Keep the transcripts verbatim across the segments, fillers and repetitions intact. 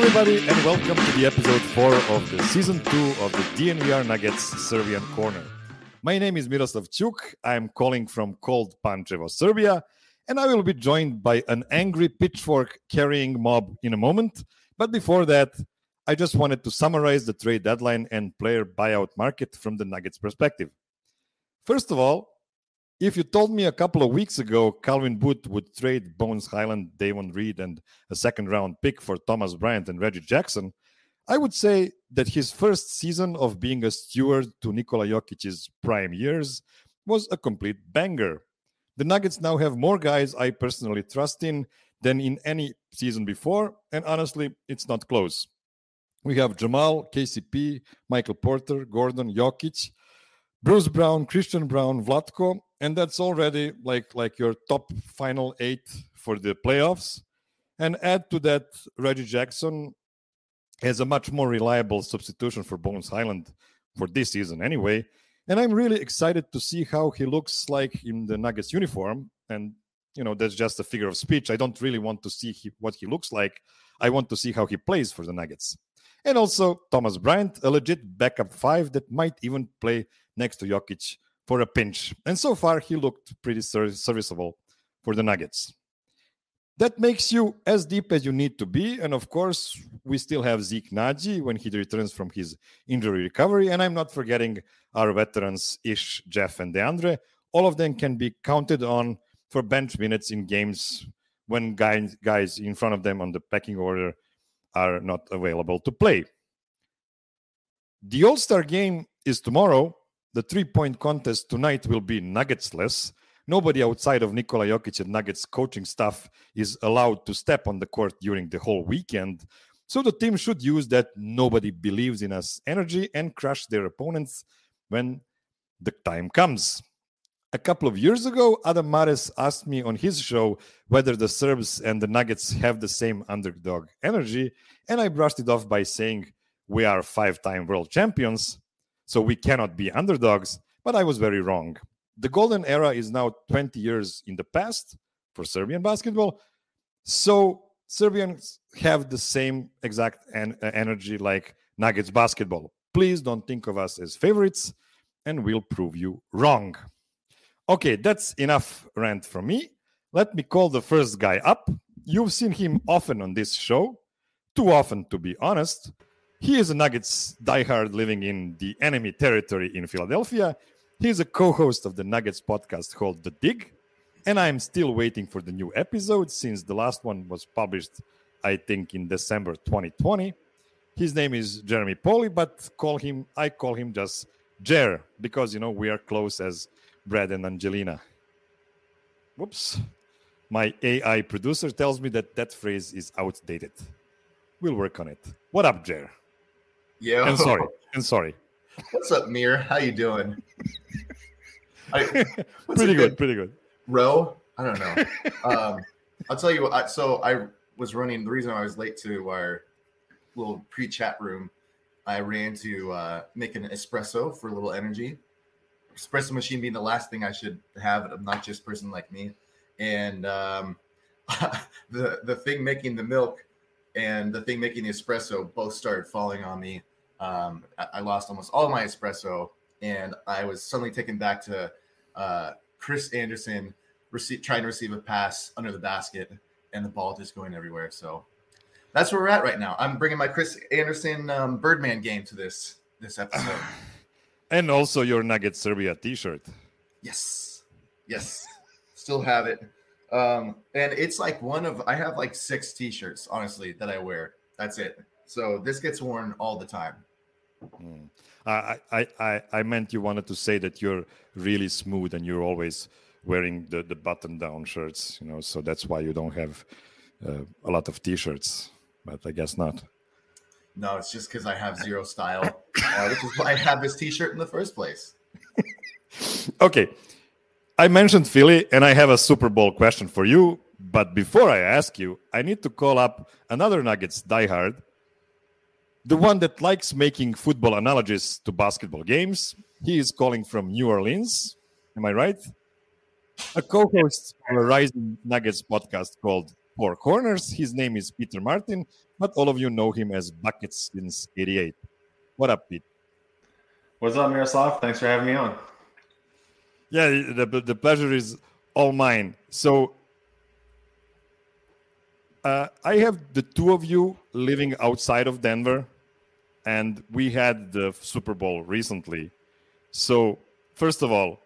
everybody, and welcome to the episode four of the season two of the D N V R Nuggets Serbian Corner. My name is Miroslav Ćuk. I'm calling from cold Pančevo, Serbia, and I will be joined by an angry pitchfork-carrying mob in a moment. But before that, I just wanted to summarize the trade deadline and player buyout market from the Nuggets perspective. First of all, if you told me a couple of weeks ago Calvin Booth would trade Bones Highland, Davon Reed, and a second-round pick for Thomas Bryant and Reggie Jackson, I would say that his first season of being a steward to Nikola Jokic's prime years was a complete banger. The Nuggets now have more guys I personally trust in than in any season before, and honestly, it's not close. We have Jamal, K C P, Michael Porter, Gordon, Jokic, Bruce Brown, Christian Brown, Vlatko, and that's already like, like your top final eight for the playoffs. And add to that Reggie Jackson as a much more reliable substitution for Bones Highland for this season anyway. And I'm really excited to see how he looks like in the Nuggets uniform. And, you know, that's just a figure of speech. I don't really want to see he, what he looks like. I want to see how he plays for the Nuggets. And also Thomas Bryant, a legit backup five that might even play next to Jokic for a pinch. And so far, he looked pretty serviceable for the Nuggets. That makes you as deep as you need to be. And of course, we still have Zeke Naji when he returns from his injury recovery. And I'm not forgetting our veterans, Ish, Jeff, and DeAndre. All of them can be counted on for bench minutes in games when guys, guys in front of them on the pecking order are not available to play. The All-Star game is tomorrow. The three-point contest tonight will be Nuggetsless. Nobody outside of Nikola Jokic and Nuggets coaching staff is allowed to step on the court during the whole weekend. So the team should use that nobody believes in us energy and crush their opponents when the time comes. A couple of years ago, Adam Mares asked me on his show whether the Serbs and the Nuggets have the same underdog energy, and I brushed it off by saying we are five-time world champions, so we cannot be underdogs, but I was very wrong. The golden era is now twenty years in the past for Serbian basketball, so Serbians have the same exact en- energy like Nuggets basketball. Please don't think of us as favorites, and we'll prove you wrong. Okay, that's enough rant from me. Let me call the first guy up. You've seen him often on this show, too often to be honest. He is a Nuggets diehard living in the enemy territory in Philadelphia. He's a co-host of the Nuggets podcast called The Dig, and I'm still waiting for the new episode since the last one was published, I think, in December twenty twenty. His name is Jeremy Poli, but call him I call him just Jer because, you know, we are close as Brad and Angelina. Whoops. My A I producer tells me that that phrase is outdated. We'll work on it. What up, Jer? Yo. And sorry. And sorry. What's up, Mir? How you doing? I, pretty good, pretty good. Row? I don't know. um, I'll tell you what. I, so I was running. The reason I was late to our little pre-chat room, I ran to uh, make an espresso for a little energy. Espresso machine being the last thing I should have, an obnoxious person like me. And um, the the thing making the milk and the thing making the espresso both started falling on me. Um, I, I lost almost all my espresso, and I was suddenly taken back to uh, Chris Anderson receive, trying to receive a pass under the basket, and the ball just going everywhere. So that's where we're at right now. I'm bringing my Chris Anderson um, Birdman game to this this episode. And also your Nuggets Serbia t-shirt. Yes. Yes. Still have it. Um, and it's like one of, I have like six t-shirts, honestly, that I wear. That's it. So this gets worn all the time. Mm. I, I, I, I meant you wanted to say that you're really smooth and you're always wearing the, the button-down shirts, you know, so that's why you don't have uh, a lot of t-shirts, but I guess not. No, it's just because I have zero style, uh, which is why I have this t-shirt in the first place. Okay. I mentioned Philly, and I have a Super Bowl question for you. But before I ask you, I need to call up another Nuggets diehard, the one that likes making football analogies to basketball games. He is calling from New Orleans. Am I right? A co-host of a Rising Nuggets podcast called four corners. His name is Peter Martin, but all of you know him as Buckets since eighty-eight. What up, Pete? What's up, Miroslav? Thanks for having me on. Yeah, the, the pleasure is all mine. So uh, I have the two of you living outside of Denver, and we had the Super Bowl recently. So first of all,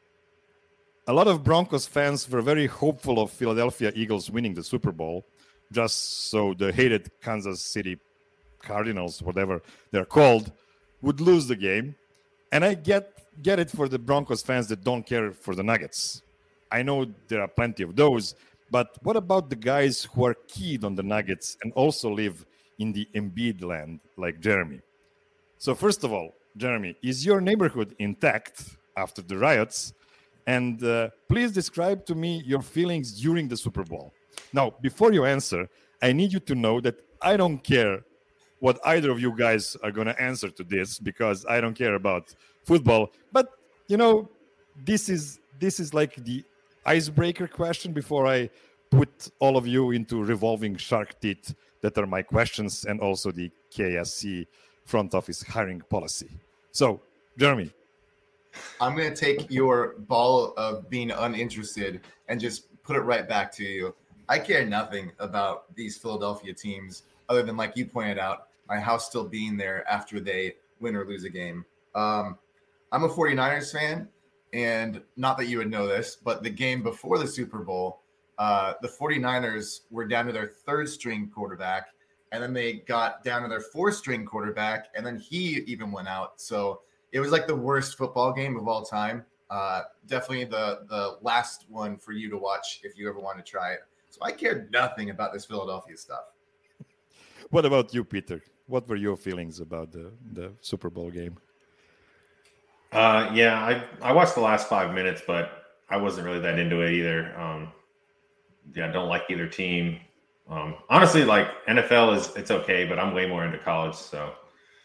a lot of Broncos fans were very hopeful of Philadelphia Eagles winning the Super Bowl, just so the hated Kansas City Cardinals, whatever they're called, would lose the game. And I get get it for the Broncos fans that don't care for the Nuggets. I know there are plenty of those, but what about the guys who are keyed on the Nuggets and also live in the Embiid land, like Jeremy? So first of all, Jeremy, is your neighborhood intact after the riots? And uh, please describe to me your feelings during the Super Bowl. Now, before you answer, I need you to know that I don't care what either of you guys are going to answer to this, because I don't care about football. But, you know, this is this is like the icebreaker question before I put all of you into revolving shark teeth that are my questions, and also the K S C front office hiring policy. So, Jeremy. I'm going to take your ball of being uninterested and just put it right back to you. I care nothing about these Philadelphia teams other than, like you pointed out, my house still being there after they win or lose a game. Um, I'm a 49ers fan, and not that you would know this, but the game before the Super Bowl, uh, the 49ers were down to their third string quarterback, and then they got down to their fourth string quarterback, and then he even went out. So it was like the worst football game of all time. Uh, definitely the, the last one for you to watch if you ever want to try it. So I cared nothing about this Philadelphia stuff. What about you, Peter? What were your feelings about the, the Super Bowl game? Uh, yeah, I, I watched the last five minutes, but I wasn't really that into it either. Um, yeah, I don't like either team. Um, honestly, like N F L is it's okay, but I'm way more into college. So,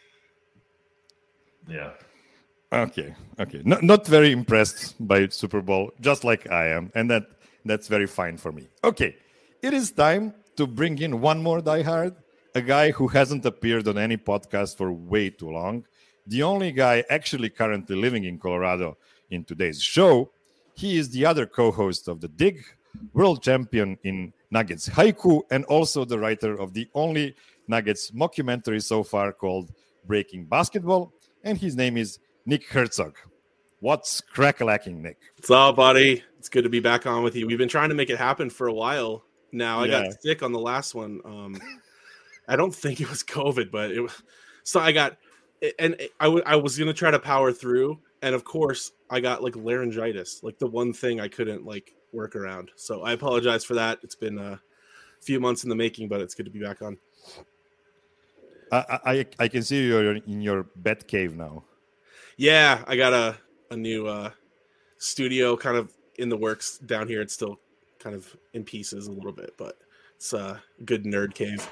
yeah. Okay, okay. Not not very impressed by Super Bowl, just like I am, and that that's very fine for me. Okay, it is time to bring in one more diehard, a guy who hasn't appeared on any podcast for way too long, the only guy actually currently living in Colorado in today's show. He is the other co-host of The Dig, world champion in Nuggets Haiku, and also the writer of the only Nuggets mockumentary so far called Breaking Basketball, and his name is Nick Herzog. What's crack-a-lacking, Nick? What's up, buddy? It's good to be back on with you. We've been trying to make it happen for a while now. I Yeah. got sick on the last one. Um, I don't think it was COVID, but it was. So I got, and I, w- I was gonna try to power through, and of course I got like laryngitis, like the one thing I couldn't like work around. So I apologize for that. It's been a few months in the making, but it's good to be back on. I I, I can see you're in your bed cave now. Yeah, I got a, a new uh, studio kind of in the works down here. It's still kind of in pieces a little bit, but it's a good nerd cave.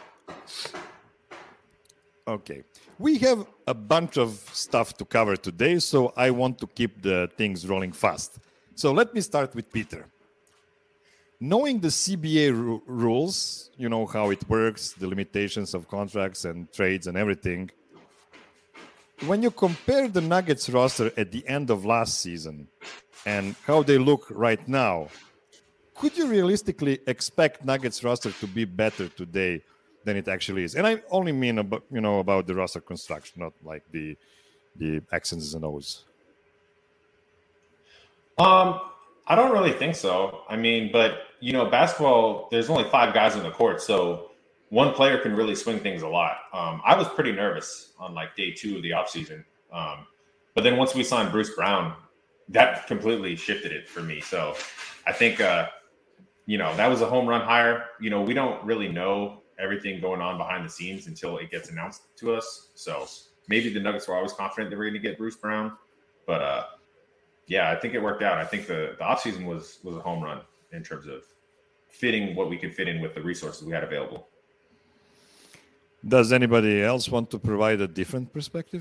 Okay. We have a bunch of stuff to cover today, so I want to keep the things rolling fast. So let me start with Peter. Knowing the C B A ru- rules, you know how it works, the limitations of contracts and trades and everything. When you compare the Nuggets roster at the end of last season and how they look right now, could you realistically expect Nuggets roster to be better today than it actually is? And I only mean about, you know, about the roster construction, not like the the X's and O's. Um, I don't really think so. I mean, but you know, basketball, there's only five guys on the court, so one player can really swing things a lot. Um, I was pretty nervous on like day two of the offseason. Um, but then once we signed Bruce Brown, that completely shifted it for me. So I think, uh, you know, that was a home run hire. You know, we don't really know everything going on behind the scenes until it gets announced to us. So maybe the Nuggets were always confident they were going to get Bruce Brown. But, uh, yeah, I think it worked out. I think the, the offseason was, was a home run in terms of fitting what we could fit in with the resources we had available. Does anybody else want to provide a different perspective?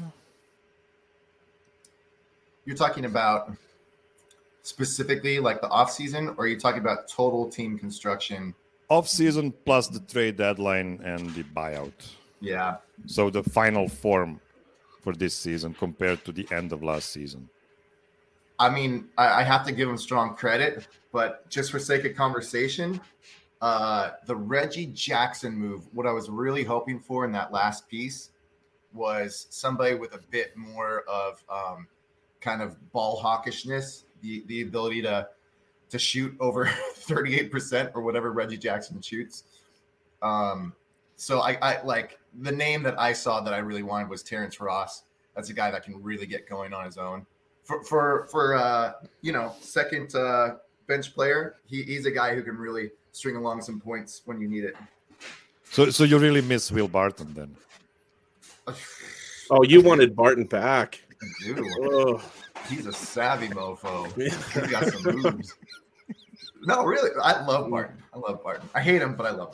You're talking about specifically like the offseason, or are you talking about total team construction off season plus the trade deadline and the buyout. Yeah. So the final form for this season compared to the end of last season. I mean, I, I have to give him strong credit, but just for sake of conversation, uh, the Reggie Jackson move, what I was really hoping for in that last piece was somebody with a bit more of um, kind of ball hawkishness, the, the ability to to shoot over thirty-eight percent or whatever Reggie Jackson shoots. Um, so I, I like the name that I saw that I really wanted was Terrence Ross. That's a guy that can really get going on his own. For for for uh, you know, second uh, bench player, he, he's a guy who can really string along some points when you need it. So so you really miss Will Barton then? Oh, you wanted Barton back. Dude, Oh. he's a savvy mofo. He's got some moves. No, really, I love Barton. I love Barton. I hate him, but I love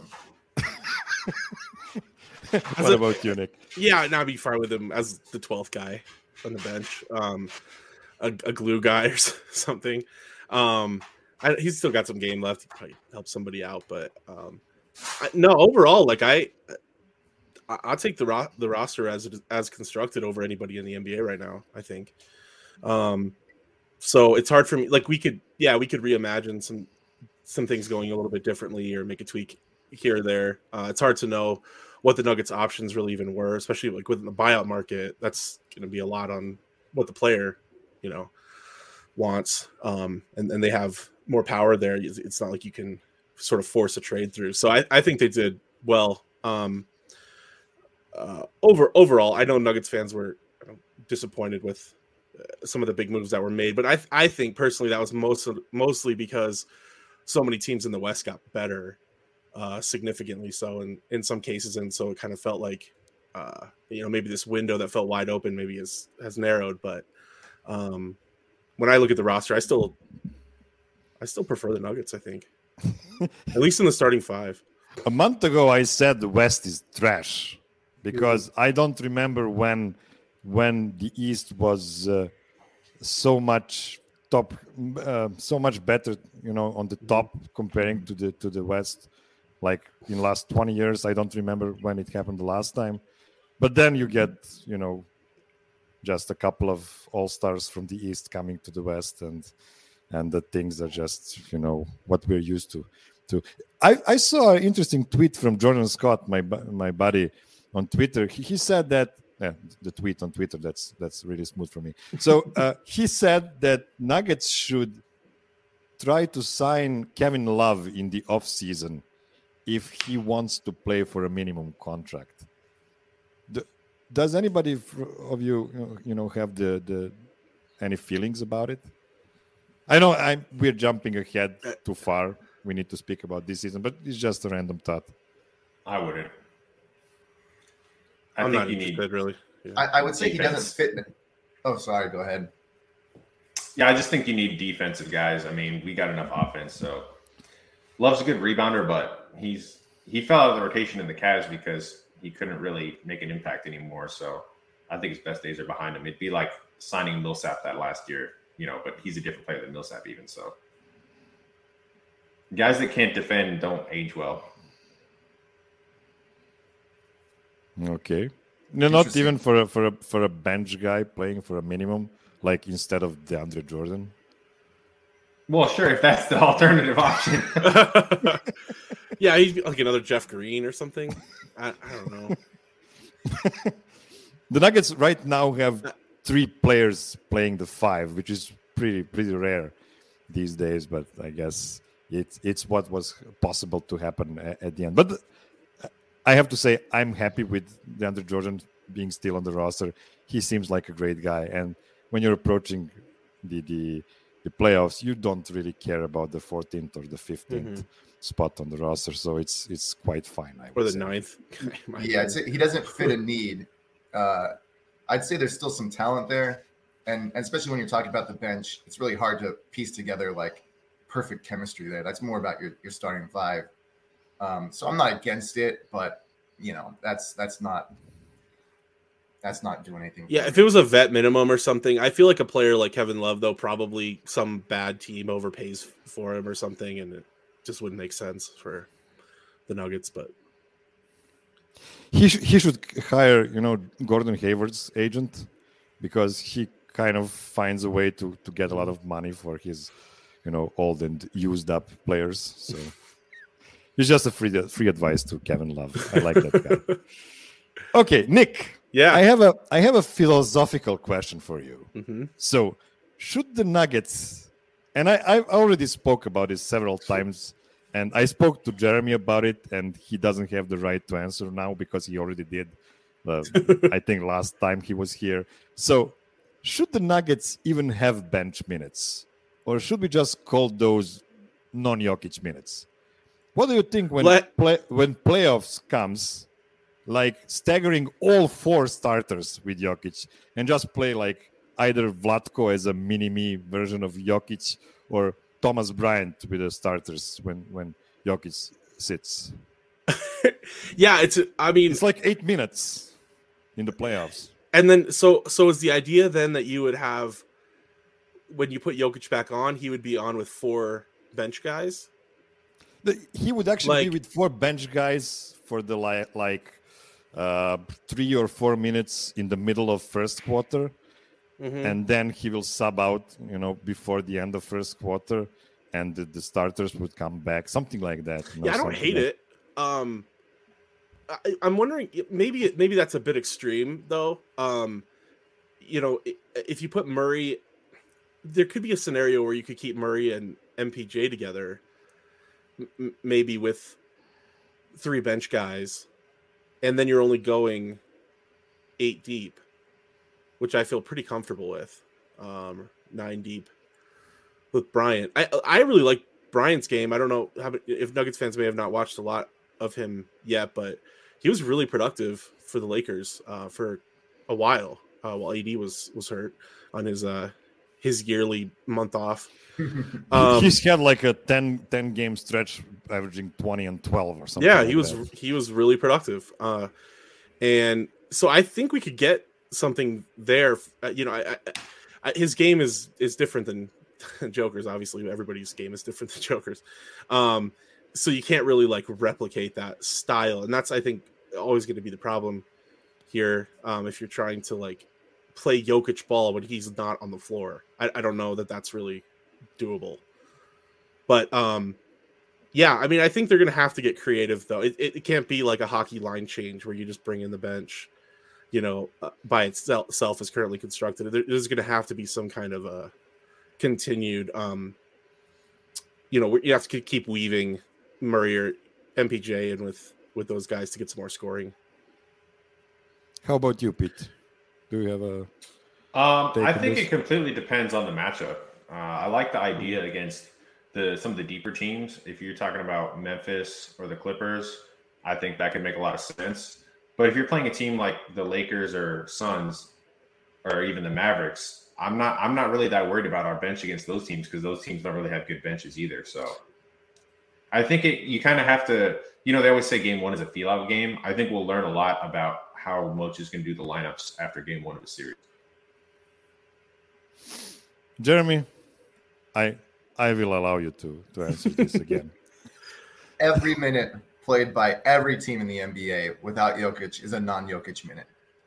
him. What about you, Nick? Yeah, now I'd be fine with him as the twelfth guy on the bench, um, a, a glue guy or something. Um, I, he's still got some game left. He could probably help somebody out, but um, I, no, overall, like I, I I'll take the ro- the roster as it is, as constructed over anybody in the N B A right now. I think. Um, so it's hard for me. Like we could, yeah, we could reimagine some some things going a little bit differently or make a tweak here or there. Uh, it's hard to know what the Nuggets options really even were, especially like within the buyout market. That's going to be a lot on what the player, you know, wants. Um, and, and they have more power there. It's not like you can sort of force a trade through. So I, I think they did well. Um, uh, over overall, I know Nuggets fans were disappointed with uh, some of the big moves that were made, but I I think personally that was most mostly because so many teams in the West got better. Uh, significantly so in, in some cases, and so it kind of felt like uh, you know, maybe this window that felt wide open maybe is has narrowed. But um, when I look at the roster, I still I still prefer the Nuggets. I think at least in the starting five. A month ago, I said the West is trash because mm-hmm. I don't remember when when the East was uh, so much top, uh, so much better, you know, on the top comparing to the to the West. Like in the last twenty years, I don't remember when it happened the last time. But then you get, you know, just a couple of all-stars from the East coming to the West, and and the things are just, you know, what we're used to. to. I, I saw an interesting tweet from Jordan Scott, my my buddy, on Twitter. He, he said that, yeah, the tweet on Twitter, that's that's really smooth for me. So uh, he said that Nuggets should try to sign Kevin Love in the off-season if he wants to play for a minimum contract. The, does anybody of you, you know, have the, the any feelings about it? I know I'm, we're jumping ahead too far. We need to speak about this season, but it's just a random thought. I wouldn't. I I'm think not you interested, need, really. Yeah. I, I would say defense. he doesn't fit. Oh, sorry. Go ahead. Yeah, I just think you need defensive guys. I mean, we got enough offense, so Love's a good rebounder, but he's he fell out of the rotation in the Cavs because he couldn't really make an impact anymore. So I think his best days are behind him. It'd be like signing Millsap that last year, you know, but he's a different player than Millsap even. So guys that can't defend don't age well. Okay. No, not even for a, for a for a bench guy playing for a minimum, like instead of DeAndre Jordan. Well, sure, if that's the alternative option. Yeah, he'd be like another Jeff Green or something. I, I don't know. The Nuggets right now have three players playing the five, which is pretty pretty rare these days. But I guess it's it's what was possible to happen at, at the end. But I have to say, I'm happy with DeAndre Jordan being still on the roster. He seems like a great guy, and when you're approaching the the the playoffs, you don't really care about the fourteenth or the fifteenth mm-hmm. spot on the roster, so it's it's quite fine. I or the say. ninth. Yeah, I'd say he doesn't fit a need. Uh, I'd say there's still some talent there, and, and especially when you're talking about the bench, it's really hard to piece together like perfect chemistry there. That's more about your, your starting five. Um, so I'm not against it, but you know, that's that's not. That's not doing anything. Yeah, if it was a vet minimum or something, I feel like a player like Kevin Love, though, probably some bad team overpays for him or something, and it just wouldn't make sense for the Nuggets, but he sh- he should hire, you know, Gordon Hayward's agent, because he kind of finds a way to to get a lot of money for his, you know, old and used up players. So it's just a free free advice to Kevin Love. I like that guy. Okay, Nick. yeah, I have a I have a philosophical question for you. mm-hmm. So, should the Nuggets, and I I already spoke about this several times, and I spoke to Jeremy about it, and he doesn't have the right to answer now because he already did. Uh, I think last time he was here. So, should the Nuggets even have bench minutes, or should we just call those non-Jokic minutes? What do you think when Let- play, when playoffs comes? Like staggering all four starters with Jokic and just play like either Vlatko as a mini-me version of Jokic or Thomas Bryant with the starters when, when Jokic sits. yeah, it's I mean, It's like eight minutes in the playoffs. and then so so is the idea then that you would have when you put Jokic back on, he would be on with four bench guys? The, he would actually be Like- with four bench guys for the li- like uh, three or four minutes in the middle of first quarter. Mhm. And then he will sub out, you know, before the end of first quarter, and the, the starters would come back, something like that. you know, Yeah, I don't something hate like- it. Um, I, I'm wondering, maybe it- maybe that's a bit extreme, though. Um, you know, i- if you put Murray, there could be a scenario where you could keep Murray and M P J together, m- maybe with three bench guys, and then you're only going eight deep, which I feel pretty comfortable with. Um, nine deep with Bryant. I I really like Bryant's game. I don't know how, if Nuggets fans may have not watched a lot of him yet, but he was really productive for the Lakers uh, for a while uh, while A D was was hurt on his uh, his yearly month off. Um, He's had like a ten, ten game stretch averaging twenty and twelve or something. yeah, like he was that. he was really productive, uh, and so I think we could get something there. Uh, you know, I, I, I, his game is is different than Joker's. Obviously, everybody's game is different than Joker's. Um, so you can't really like replicate that style, and that's I think always going to be the problem here. Um, if you're trying to like play Jokic ball when he's not on the floor, I, I don't know that that's really doable. But um, yeah, I mean, I think they're going to have to get creative though. It, it it can't be like a hockey line change where you just bring in the bench, you know, uh, by itself as currently constructed. There, there's going to have to be some kind of a continued, um, you know, you have to keep weaving Murray or M P J in with with those guys to get some more scoring. How about you, Pete? Do you have a? Um, Take I think this. it completely depends on the matchup. Uh, I like the idea against the some of the deeper teams. If you're talking about Memphis or the Clippers, I think that could make a lot of sense. But if you're playing a team like the Lakers or Suns, or even the Mavericks, I'm not I'm not really that worried about our bench against those teams because those teams don't really have good benches either. So I think it you kind of have to, you know, they always say game one is a feel out game. I think we'll learn a lot about how Moch is going to do the lineups after game one of the series. Jeremy, I I will allow you to to answer this again. Every minute played by every team in the N B A without Jokic is a non-Jokic minute.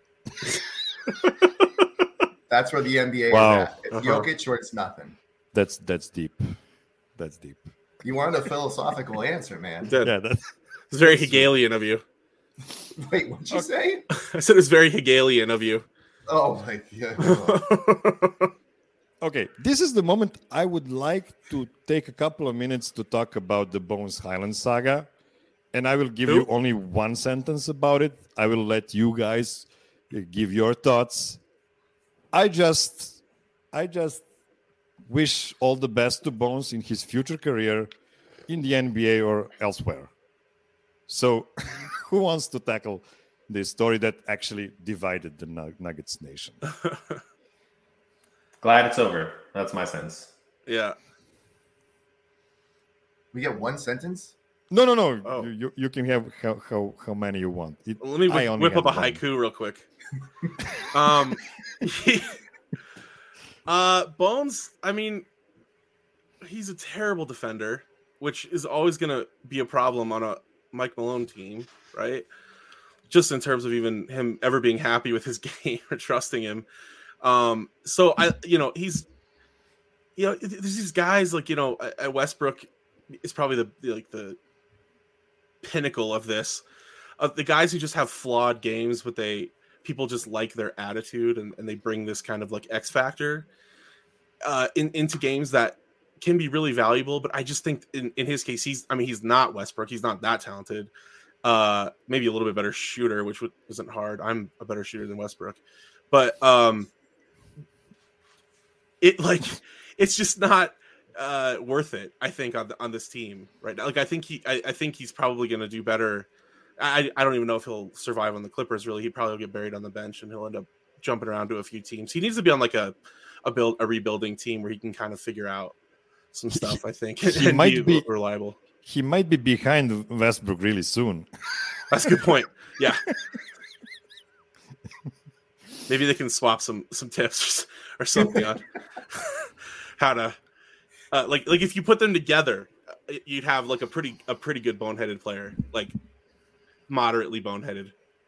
That's where the N B A Wow. is at. It's Uh-huh. Jokic or it's nothing. That's that's deep. That's deep. You wanted a philosophical answer, man. That- Yeah, that's It's very Hegelian of you. Wait, what'd you say? I said it's very Hegelian of you. Oh my god. okay. This is the moment I would like to take a couple of minutes to talk about the Bones Highland saga, and I will give Who? you only one sentence about it. I will let you guys uh, give your thoughts. I just, I just wish all the best to Bones in his future career in the N B A or elsewhere. So, who wants to tackle this story that actually divided the Nug- Nuggets nation? Glad it's over. That's my sense. Yeah. We get one sentence? No, no, no. Oh. You, you, you can have how, how, how many you want. It, Let me I whip, only whip up a had one. haiku real quick. um, uh, Bones. I mean, he's a terrible defender, which is always going to be a problem on a Mike Malone team, right? Just in terms of even him ever being happy with his game or trusting him. Um, so I, you know, he's, you know, there's these guys like, you know, at Westbrook is probably the, the like the pinnacle of this, of the guys who just have flawed games, but they people just like their attitude and, and they bring this kind of like X factor uh, in, into games that can be really valuable. But I just think in, in his case, he's, I mean, he's not Westbrook. He's not that talented. Uh, maybe a little bit better shooter, which isn't hard. I'm a better shooter than Westbrook, but um, it like, it's just not uh, worth it. I think on the, on this team right now. Like, I think he, I, I think he's probably going to do better. I, I don't even know if he'll survive on the Clippers. Really, he probably will get buried on the bench, and he'll end up jumping around to a few teams. He needs to be on like a a build a rebuilding team where he can kind of figure out some stuff. I think he and might be, be reliable. He might be behind Westbrook really soon. That's a good point. Yeah. Maybe they can swap some some tips or something on how to uh, like like if you put them together, you'd have like a pretty a pretty good boneheaded player, like moderately boneheaded.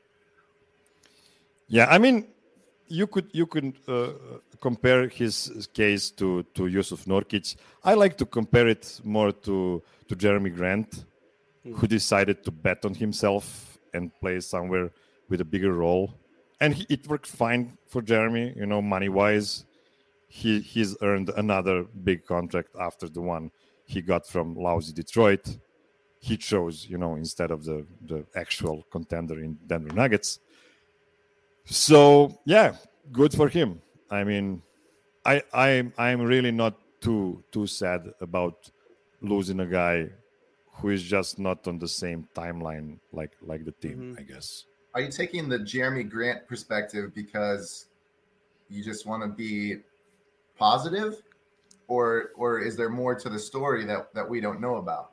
Yeah, I mean, you could you could uh, compare his case to to Yusuf Nurkic. I like to compare it more to to Jeremy Grant, hmm. who decided to bet on himself and play somewhere with a bigger role. And he, it worked fine for Jeremy, you know, money-wise. He he's earned another big contract after the one he got from lousy Detroit. He chose, you know, instead of the, the actual contender in Denver Nuggets. So, yeah, good for him. I mean, I I I'm really not too too sad about losing a guy who is just not on the same timeline like like the team, mm-hmm. I guess. Are you taking the Jeremy Grant perspective because you just want to be positive, or or is there more to the story that, that we don't know about?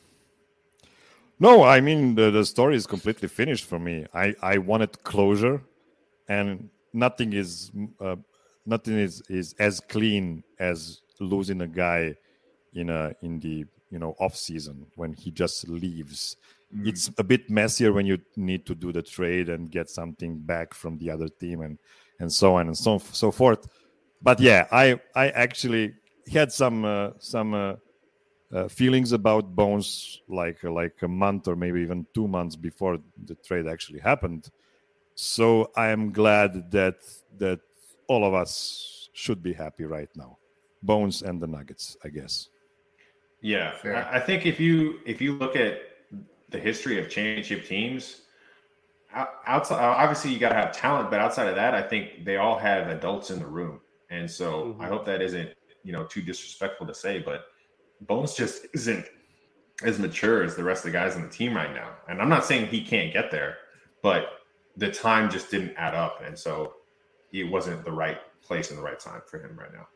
No, I mean, the, the story is completely finished for me. I, I wanted closure, and nothing is uh, nothing is, is as clean as losing a guy in a in the you know off season when he just leaves. Mm. It's a bit messier when you need to do the trade and get something back from the other team and and so on and so so forth. But yeah, I I actually had some uh, some uh, uh, feelings about Bones like like a month or maybe even two months before the trade actually happened. So I am glad that that all of us should be happy right now, Bones and the Nuggets, I guess. Yeah, Fair. I think if you if you look at the history of championship teams, outside obviously you got to have talent, but outside of that, I think they all have adults in the room, and so mm-hmm. I hope that isn't you know too disrespectful to say, but Bones just isn't as mature as the rest of the guys on the team right now. And I'm not saying he can't get there, but the time just didn't add up, and so it wasn't the right place and the right time for him right now.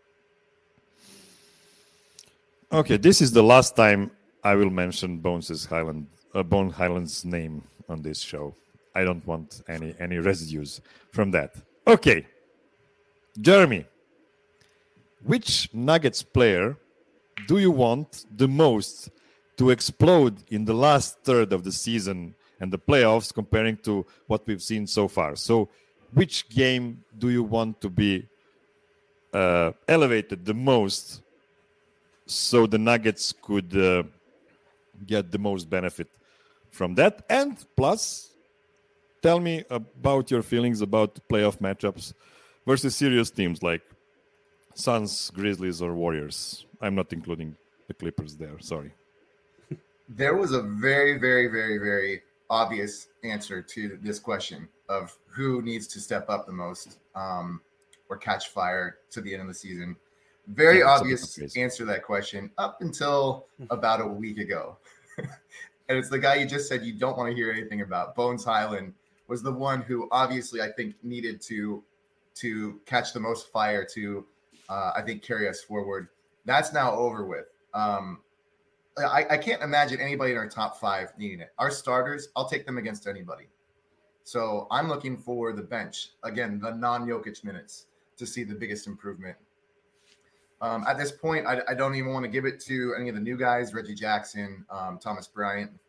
Okay, this is the last time I will mention Bones' Highland, uh, Bone Highland's name on this show. I don't want any any residues from that. Okay, Jeremy, which Nuggets player do you want the most to explode in the last third of the season and the playoffs comparing to what we've seen so far? So which game do you want to be uh, elevated the most so the Nuggets could uh, get the most benefit from that? And plus, tell me about your feelings about playoff matchups versus serious teams like Suns, Grizzlies, or Warriors. I'm not including the Clippers there. Sorry. There was a very, very, very, very obvious answer to this question of who needs to step up the most um, or catch fire to the end of the season. Very yeah, obvious answer to that question up until about a week ago. And it's the guy you just said you don't want to hear anything about. Bones Highland was the one who obviously I think needed to to catch the most fire to, uh, I think, carry us forward. That's now over with. Um, I, I can't imagine anybody in our top five needing it. Our starters, I'll take them against anybody. So I'm looking for the bench, again, the non-Jokic minutes to see the biggest improvement. Um, at this point, I, I don't even want to give it to any of the new guys, Reggie Jackson, um, Thomas Bryant.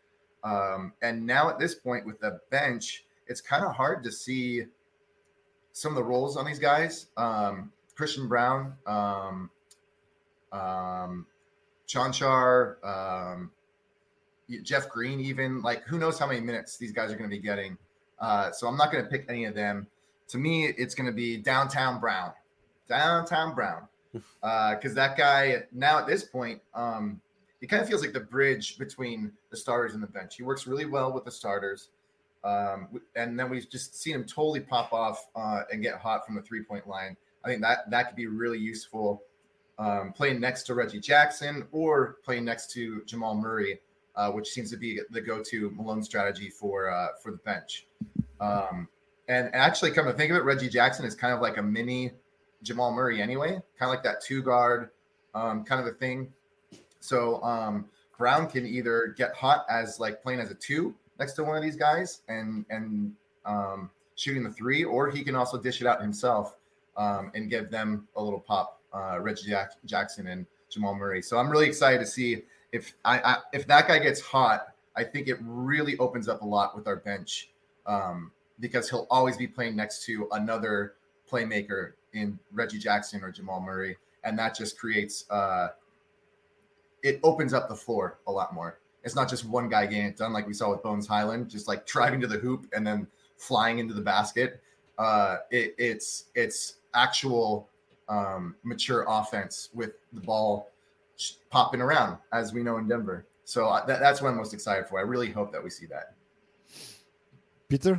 Um, and now at this point with the bench, it's kind of hard to see some of the roles on these guys. Um, Christian Brown, um, um, Chanchar, um, Jeff Green, even like who knows how many minutes these guys are going to be getting. Uh, so I'm not going to pick any of them. To me, it's going to be Downtown Brown, Downtown Brown, because uh, that guy now at this point, um, he kind of feels like the bridge between the starters and the bench. He works really well with the starters, um, and then we've just seen him totally pop off uh, and get hot from the three-point line. I think that that could be really useful. Um, playing next to Reggie Jackson or playing next to Jamal Murray, uh, which seems to be the go-to Malone strategy for uh, for the bench. Um, and, and actually, come to think of it, Reggie Jackson is kind of like a mini Jamal Murray anyway, kind of like that two guard um, kind of a thing. So um, Brown can either get hot as like playing as a two next to one of these guys and and um, shooting the three, or he can also dish it out himself um, and give them a little pop. Uh, Reggie Jack- Jackson and Jamal Murray. So I'm really excited to see if I, I if that guy gets hot. I think it really opens up a lot with our bench um, because he'll always be playing next to another playmaker in Reggie Jackson or Jamal Murray, and that just creates uh, it opens up the floor a lot more. It's not just one guy getting it done like we saw with Bones Highland, just like driving to the hoop and then flying into the basket. Uh, it, it's it's actual. Um, mature offense with the ball popping around, as we know in Denver. So uh, that, that's what I'm most excited for. I really hope that we see that. Peter?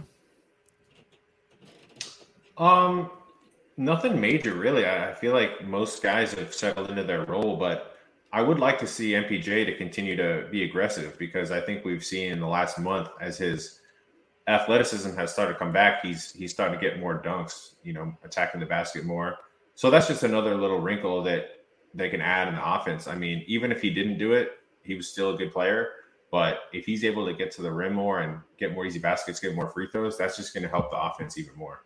Um, nothing major, really. I, I feel like most guys have settled into their role, but I would like to see M P J to continue to be aggressive because I think we've seen in the last month as his athleticism has started to come back, he's he's starting to get more dunks, you know, attacking the basket more. So that's just another little wrinkle that they can add in the offense. I mean, even if he didn't do it, he was still a good player. But if he's able to get to the rim more and get more easy baskets, get more free throws, that's just going to help the offense even more.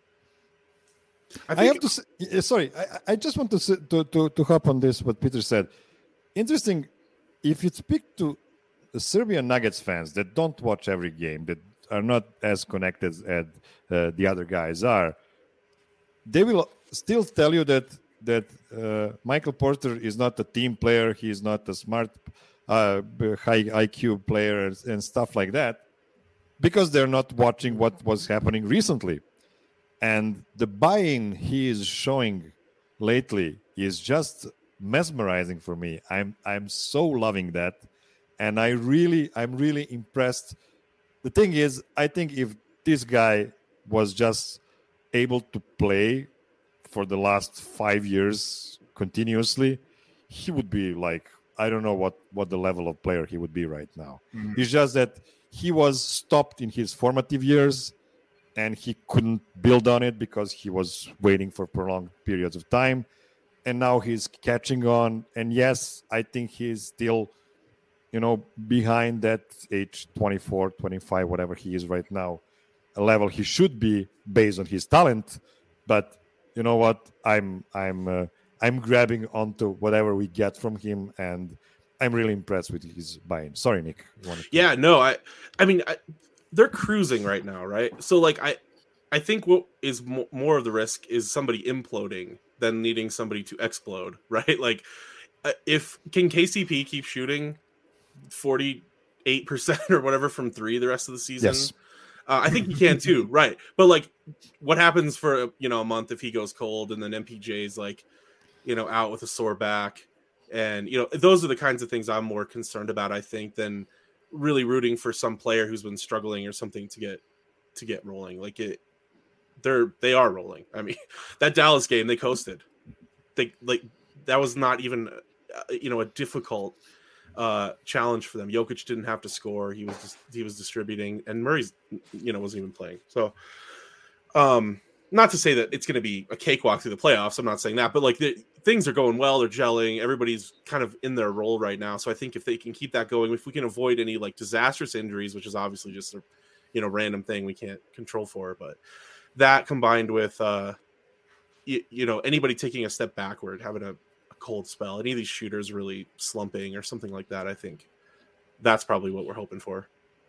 I, I have to say, sorry, I, I just want to, to to to hop on this, what Peter said. Interesting, if you speak to the Serbian Nuggets fans that don't watch every game, that are not as connected as uh, the other guys are, they will still tell you that that uh, Michael Porter is not a team player. He is not a smart, uh, high I Q player and, and stuff like that, because they're not watching what was happening recently. And the buy-in he is showing lately is just mesmerizing for me. I'm I'm so loving that, and I really I'm really impressed. The thing is, I think if this guy was just able to play for the last five years continuously, he would be like, I don't know what, what the level of player he would be right now. Mm-hmm. It's just that he was stopped in his formative years and he couldn't build on it because he was waiting for prolonged periods of time. And now he's catching on. And yes, I think he's still, you know, behind that age twenty-four, twenty-five, whatever he is right now, a level he should be based on his talent. But you know what? I'm I'm uh, I'm grabbing onto whatever we get from him, and I'm really impressed with his buy-in. Sorry, Nick. Yeah, no, I I mean I, they're cruising right now, right? So like I I think what is mo- more of the risk is somebody imploding than needing somebody to explode, right? Like uh, if can K C P keep shooting forty-eight percent or whatever from three the rest of the season? Yes. Uh, I think he can too, right? But like, what happens for you know a month if he goes cold and then M P J's like, you know, out with a sore back, and you know those are the kinds of things I'm more concerned about, I think, than really rooting for some player who's been struggling or something to get to get rolling. Like it, they're they are rolling. I mean, that Dallas game they coasted. They like that was not even uh, you know a difficult uh challenge for them. Jokic didn't have to score. He was just, he was distributing, and Murray's you know wasn't even playing. So um not to say that it's going to be a cakewalk through the playoffs. I'm not saying that, but like the things are going well. They're gelling. Everybody's kind of in their role right now. So I think if they can keep that going, if we can avoid any like disastrous injuries, which is obviously just a you know random thing we can't control for, but that combined with uh you, you know anybody taking a step backward, having a cold spell, any of these shooters really slumping or something like that, I think that's probably what we're hoping for.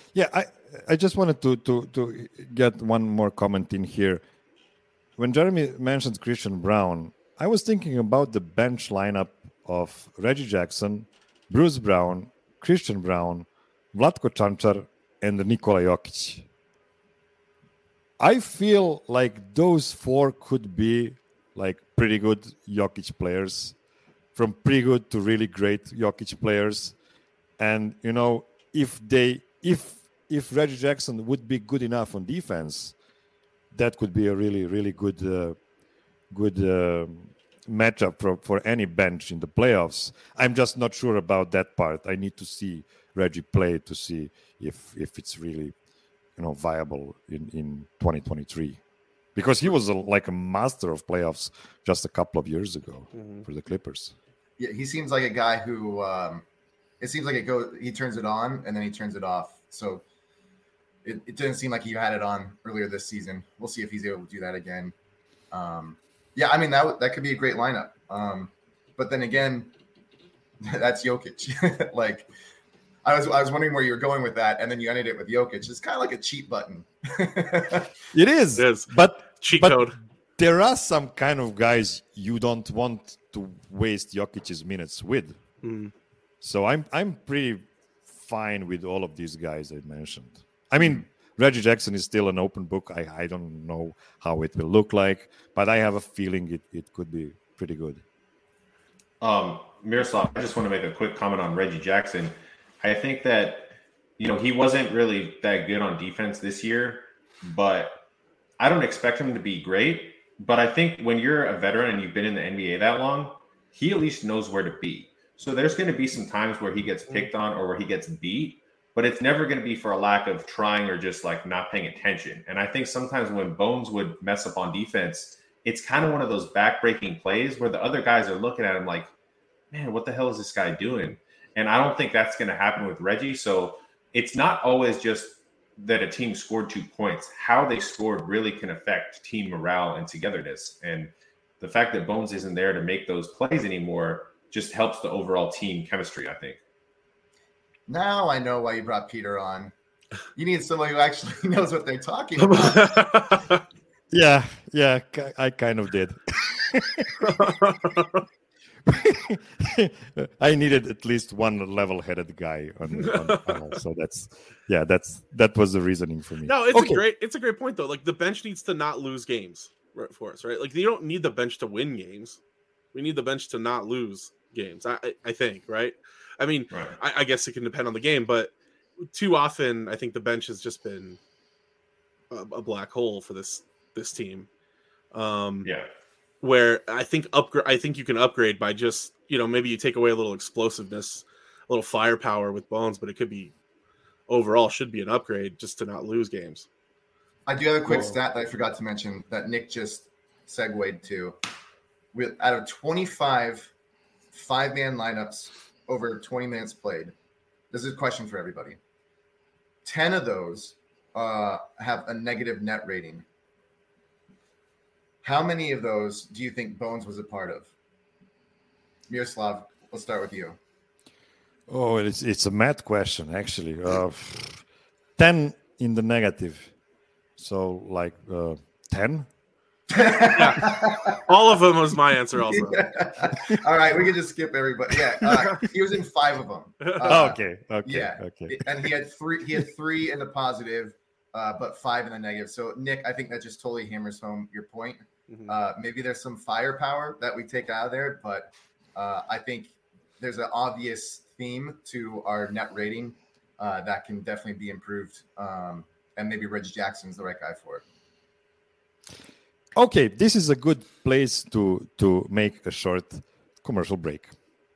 Yeah, I I just wanted to to to get one more comment in here. When Jeremy mentioned Christian Brown, I was thinking about the bench lineup of Reggie Jackson, Bruce Brown, Christian Brown, Vlatko Čančar, and Nikola Jokic. I feel like those four could be like pretty good Jokic players, from pretty good to really great Jokic players. And you know, if they if if Reggie Jackson would be good enough on defense, that could be a really really good uh, good uh, matchup for, for any bench in the playoffs. I'm just not sure about that part. I need to see Reggie play to see if if it's really, you know, viable in, in twenty twenty-three, because he was a, like a master of playoffs just a couple of years ago mm-hmm. for the Clippers. Yeah, he seems like a guy who um, it seems like it goes. He turns it on and then he turns it off. So it, it didn't seem like he had it on earlier this season. We'll see if he's able to do that again. Um, yeah, I mean that that could be a great lineup. Um, but then again, that's Jokic. Like. I was I was wondering where you were going with that, and then you ended it with Jokic. It's kind of like a cheat button. It is, it is. but cheat but code. There are some kind of guys you don't want to waste Jokic's minutes with. Mm. So I'm I'm pretty fine with all of these guys I mentioned. I mean, Reggie Jackson is still an open book. I, I don't know how it will look like, but I have a feeling it, it could be pretty good. Um, Miroslav, I just want to make a quick comment on Reggie Jackson. I think that, you know, he wasn't really that good on defense this year, but I don't expect him to be great. But I think when you're a veteran and you've been in the N B A that long, he at least knows where to be. So there's going to be some times where he gets picked on or where he gets beat, but it's never going to be for a lack of trying or just like not paying attention. And I think sometimes when Bones would mess up on defense, it's kind of one of those backbreaking plays where the other guys are looking at him like, man, what the hell is this guy doing? And I don't think that's going to happen with Reggie. So it's not always just that a team scored two points. How they scored really can affect team morale and togetherness. And the fact that Bones isn't there to make those plays anymore just helps the overall team chemistry, I think. Now I know why you brought Peter on. You need someone who actually knows what they're talking about. yeah, yeah, I kind of did. I needed at least one level-headed guy on, on the panel, so that's yeah, that's that was the reasoning for me. No, it's okay. a great it's a great point though. Like the bench needs to not lose games for us, right? Like you don't need the bench to win games. We need the bench to not lose games. I I, I think, right? I mean, right. I, I guess it can depend on the game, but too often I think the bench has just been a, a black hole for this this team. Um, yeah. Where I think upgrade, I think you can upgrade by just, you know, maybe you take away a little explosiveness, a little firepower with Bones, but it could be overall should be an upgrade just to not lose games. I do have a quick Whoa. stat that I forgot to mention that Nick just segued to. With out of twenty-five five-man lineups over twenty minutes played, this is a question for everybody. ten of those uh, have a negative net rating. How many of those do you think Bones was a part of? Miroslav, let's start with you. Oh, it's it's a math question, actually. Uh, ten in the negative. So, like, uh, ten? Yeah. All of them was my answer also. Yeah. All right, we can just skip everybody. Yeah, uh, he was in five of them. Uh, okay, okay, yeah. okay. And he had three. He had three in the positive, uh, but five in the negative. So, Nick, I think that just totally hammers home your point. Mm-hmm. Uh, maybe there's some firepower that we take out of there, but uh, I think there's an obvious theme to our net rating uh, that can definitely be improved. Um, and maybe Reggie Jackson's the right guy for it. Okay, this is a good place to to make a short commercial break.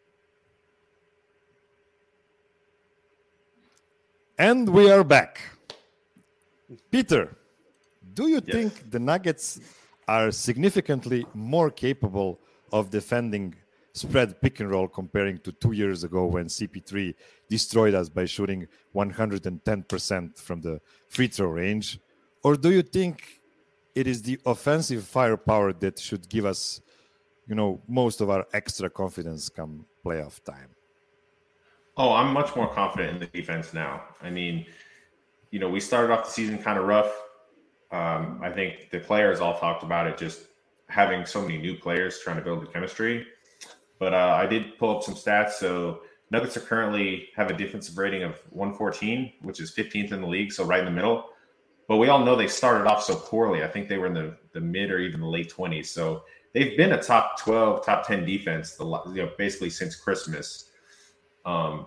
And we are back. Peter, do you yes. think the Nuggets are significantly more capable of defending spread pick and roll comparing to two years ago when C P three destroyed us by shooting one hundred ten percent from the free throw range? Or do you think it is the offensive firepower that should give us, you know, most of our extra confidence come playoff time? Oh, I'm much more confident in the defense now. I mean, you know, we started off the season kind of rough. Um, I think the players all talked about it, just having so many new players trying to build the chemistry. But uh, I did pull up some stats. So Nuggets are currently have a defensive rating of one fourteen, which is fifteenth in the league, so right in the middle. But we all know they started off so poorly. I think they were in the, the mid or even the late twenties. So they've been a top twelve, top ten defense, the, you know, basically since Christmas. Um,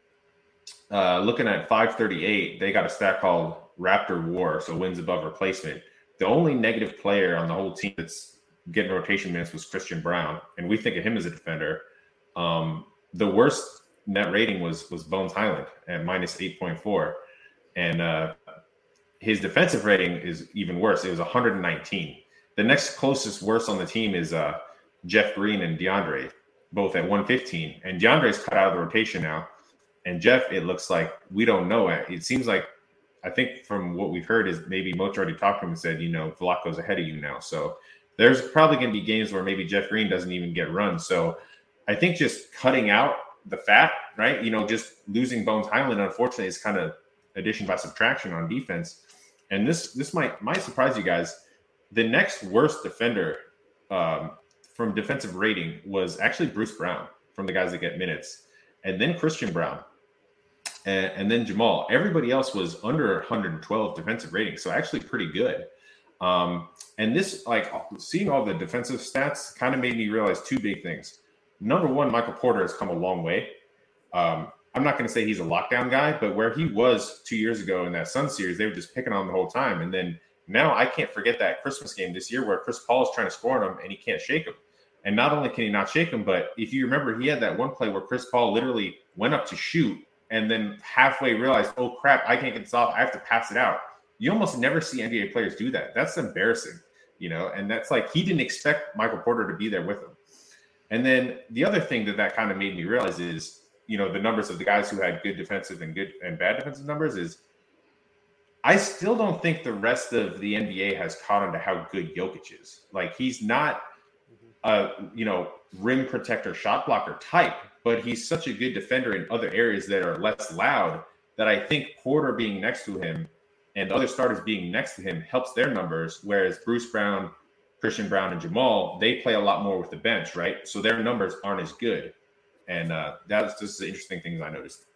uh, looking at five thirty-eight, they got a stat called Raptor War, so wins above replacement. The only negative player on the whole team that's getting rotation minutes was Christian Brown, and we think of him as a defender. Um, the worst net rating was was Bones Highland at minus eight point four, and uh, his defensive rating is even worse. It was one hundred nineteen. The next closest worst on the team is uh, Jeff Green and DeAndre, both at one fifteen. And DeAndre's cut out of the rotation now. And Jeff, it looks like we don't know. It seems like, I think from what we've heard is maybe Moach already talked to him and said, you know, Vlaho's ahead of you now. So there's probably going to be games where maybe Jeff Green doesn't even get run. So I think just cutting out the fat, right? You know, just losing Bones Highland, unfortunately, is kind of addition by subtraction on defense. And this this might might surprise you guys. The next worst defender um, from defensive rating was actually Bruce Brown from the guys that get minutes, and then Christian Brown, and, and then Jamal. Everybody else was under one hundred twelve defensive rating, so actually pretty good. Um, and this, like, seeing all the defensive stats kind of made me realize two big things. Number one, Michael Porter has come a long way. Um, I'm not going to say he's a lockdown guy, but where he was two years ago in that Sun series, they were just picking on him the whole time. And then now I can't forget that Christmas game this year where Chris Paul is trying to score on him and he can't shake him. And not only can he not shake him, but if you remember, he had that one play where Chris Paul literally went up to shoot and then halfway realized, oh, crap, I can't get this off. I have to pass it out. You almost never see N B A players do that. That's embarrassing, you know, and that's like he didn't expect Michael Porter to be there with him. And then the other thing that that kind of made me realize is, you know, the numbers of the guys who had good defensive and good and bad defensive numbers is I still don't think the rest of the N B A has caught on to how good Jokic is. Like, he's not a, you know, rim protector, shot blocker type, but he's such a good defender in other areas that are less loud that I think Porter being next to him and the other starters being next to him helps their numbers, whereas Bruce Brown, Christian Brown, and Jamal, they play a lot more with the bench, right? So their numbers aren't as good. And uh, that's just the interesting things I noticed.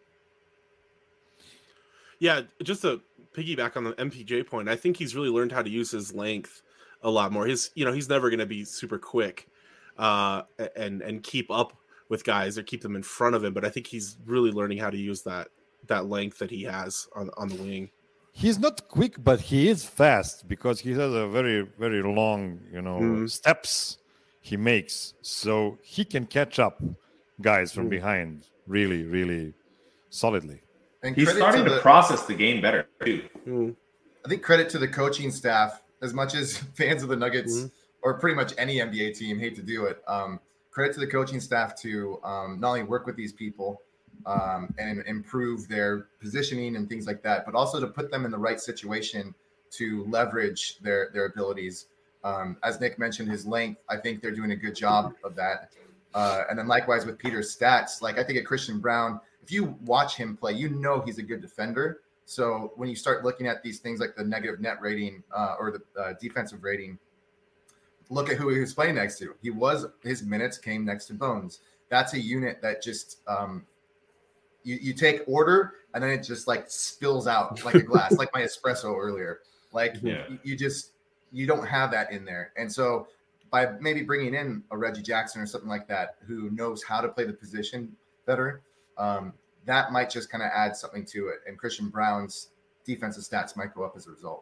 Yeah, just to piggyback on the M P J point, I think he's really learned how to use his length a lot more. His, you know, he's never going to be super quick uh, and and keep up with guys or keep them in front of him, but I think he's really learning how to use that that length that he has on on the wing. He's not quick, but he is fast because he has a very, very long, you know, mm. steps he makes. So he can catch up guys from mm. behind really, really solidly. And he's starting to, to the, process the game better, too. Mm. I think credit to the coaching staff, as much as fans of the Nuggets mm. or pretty much any N B A team hate to do it. Um, credit to the coaching staff to um, not only work with these people, Um, and improve their positioning and things like that, but also to put them in the right situation to leverage their their abilities. Um, as Nick mentioned, his length, I think they're doing a good job of that. Uh, and then likewise with Peter's stats, like I think at Christian Brown, if you watch him play, you know he's a good defender. So when you start looking at these things like the negative net rating uh, or the uh, defensive rating, look at who he was playing next to. He was his minutes came next to Bones. That's a unit that just um, You, you take order and then it just like spills out like a glass, like my espresso earlier. Like yeah. you, you just, you don't have that in there. And so by maybe bringing in a Reggie Jackson or something like that, who knows how to play the position better, um, that might just kind of add something to it. And Christian Brown's defensive stats might go up as a result.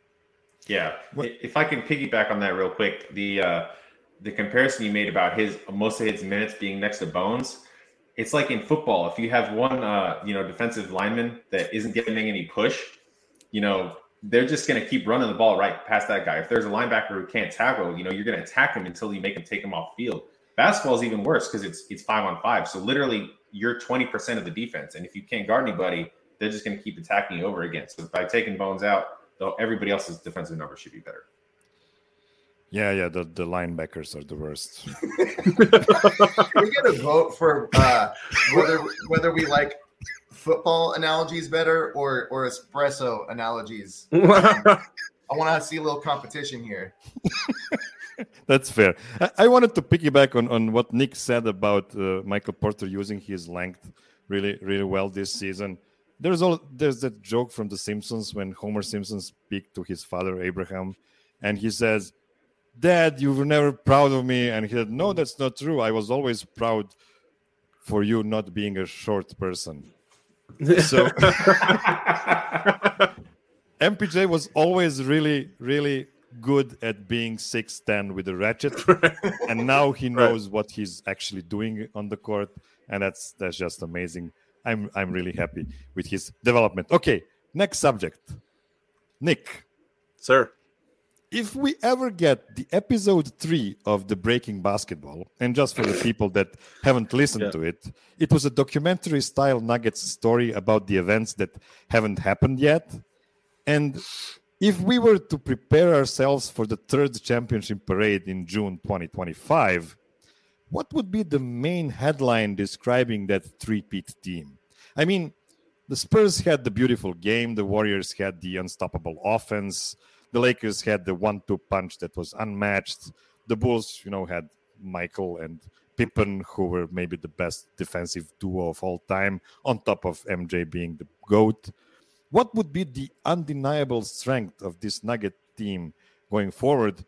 Yeah. If I can piggyback on that real quick, the, uh, the comparison you made about his, most of his minutes being next to Bones, it's like in football, if you have one, uh, you know, defensive lineman that isn't getting any push, you know, they're just going to keep running the ball right past that guy. If there's a linebacker who can't tackle, you know, you're going to attack him until you make him take him off field. Basketball is even worse because it's it's five on five. So literally, you're twenty percent of the defense, and if you can't guard anybody, they're just going to keep attacking you over again. So by taking Bones out, though, everybody else's defensive numbers should be better. Yeah, yeah, the, the linebackers are the worst. We get a vote for uh, whether whether we like football analogies better or or espresso analogies? I want to see a little competition here. That's fair. I, I wanted to piggyback on, on what Nick said about uh, Michael Porter using his length really, really well this season. There's all there's that joke from The Simpsons when Homer Simpson speaks to his father Abraham, and he says, "Dad, you were never proud of me." And he said, "No, that's not true. I was always proud for you not being a short person." So M P J was always really, really good at being six ten with a ratchet, and now he knows right. what he's actually doing on the court, and that's that's just amazing. I'm I'm really happy with his development. Okay, next subject. Nick. Sir. If we ever get the episode three of the Breaking Basketball, and just for the people that haven't listened yeah. to it, it was a documentary-style Nuggets story about the events that haven't happened yet. And if we were to prepare ourselves for the third championship parade in June twenty twenty-five, what would be the main headline describing that three-peat team? I mean, the Spurs had the beautiful game, the Warriors had the unstoppable offense, the Lakers had the one two punch that was unmatched. The Bulls, you know, had Michael and Pippen, who were maybe the best defensive duo of all time, on top of M J being the GOAT. What would be the undeniable strength of this Nugget team going forward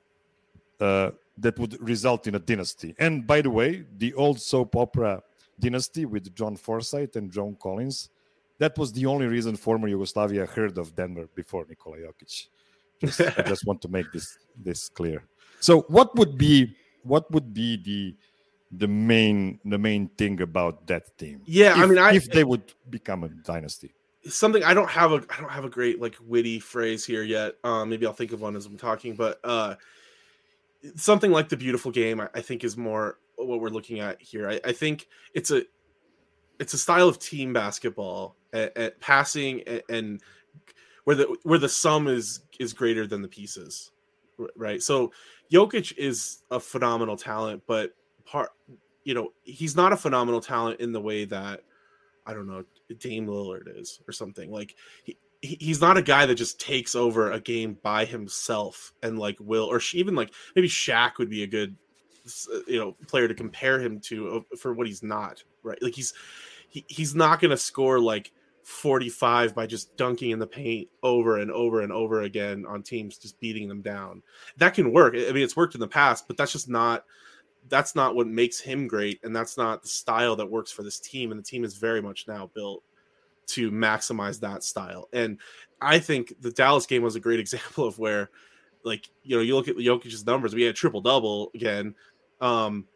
uh, that would result in a dynasty? And by the way, the old soap opera dynasty with John Forsythe and John Collins, that was the only reason former Yugoslavia heard of Denver before Nikola Jokic. Just, I just want to make this this clear. So, what would be what would be the the main the main thing about that team? Yeah, if, I mean, I, if they would become a dynasty, something I don't have a I don't have a great like witty phrase here yet. Um, maybe I'll think of one as I'm talking, but uh, something like the beautiful game, I, I think, is more what we're looking at here. I, I think it's a it's a style of team basketball at, at passing and, and where the where the sum is is greater than the pieces, right? So Jokic is a phenomenal talent, but part you know he's not a phenomenal talent in the way that I don't know Dame Lillard is or something. Like he he's not a guy that just takes over a game by himself and like will or even like maybe Shaq would be a good you know player to compare him to for what he's not, right? Like he's he, he's not going to score like forty-five by just dunking in the paint over and over and over again on teams, just beating them down. That can work. I mean, it's worked in the past, but that's just not that's not what makes him great, and that's not the style that works for this team. And the team is very much now built to maximize that style. And I think the Dallas game was a great example of where, like, you know, you look at Jokic's numbers. We had a triple double again. Um,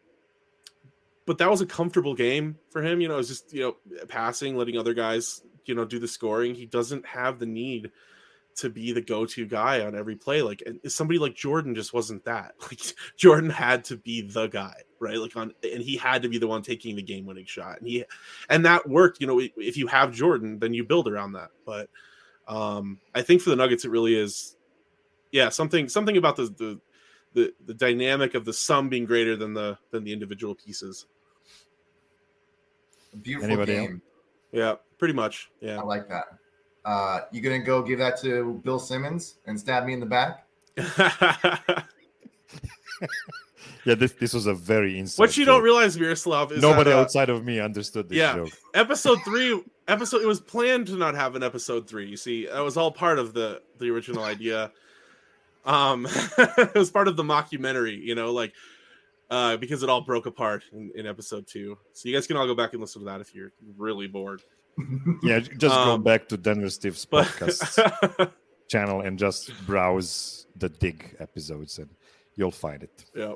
but that was a comfortable game for him. You know, it was just, you know, passing, letting other guys, you know, do the scoring. He doesn't have the need to be the go-to guy on every play. Like, and somebody like Jordan just wasn't that. Like, Jordan had to be the guy, right? Like on, and he had to be the one taking the game-winning shot. And he, and that worked. You know, if you have Jordan, then you build around that. But um, I think for the Nuggets, it really is, yeah, something, something about the the the the dynamic of the sum being greater than the than the individual pieces. A beautiful Anybody game. else? Yeah, pretty much. Yeah, I like that. Uh, you gonna go give that to Bill Simmons and stab me in the back? Yeah, this this was a very inside What you joke. don't realize, Miroslav, is Nobody that, uh, outside of me understood this yeah, joke. episode three, episode it was planned to not have an episode three. You see, that was all part of the the original idea. Um, it was part of the mockumentary, you know, like uh, because it all broke apart in, in episode two. So you guys can all go back and listen to that if you're really bored. Yeah, just go Um, back to Denver Steve's But podcast channel and just browse the Dig episodes, and you'll find it. yeah,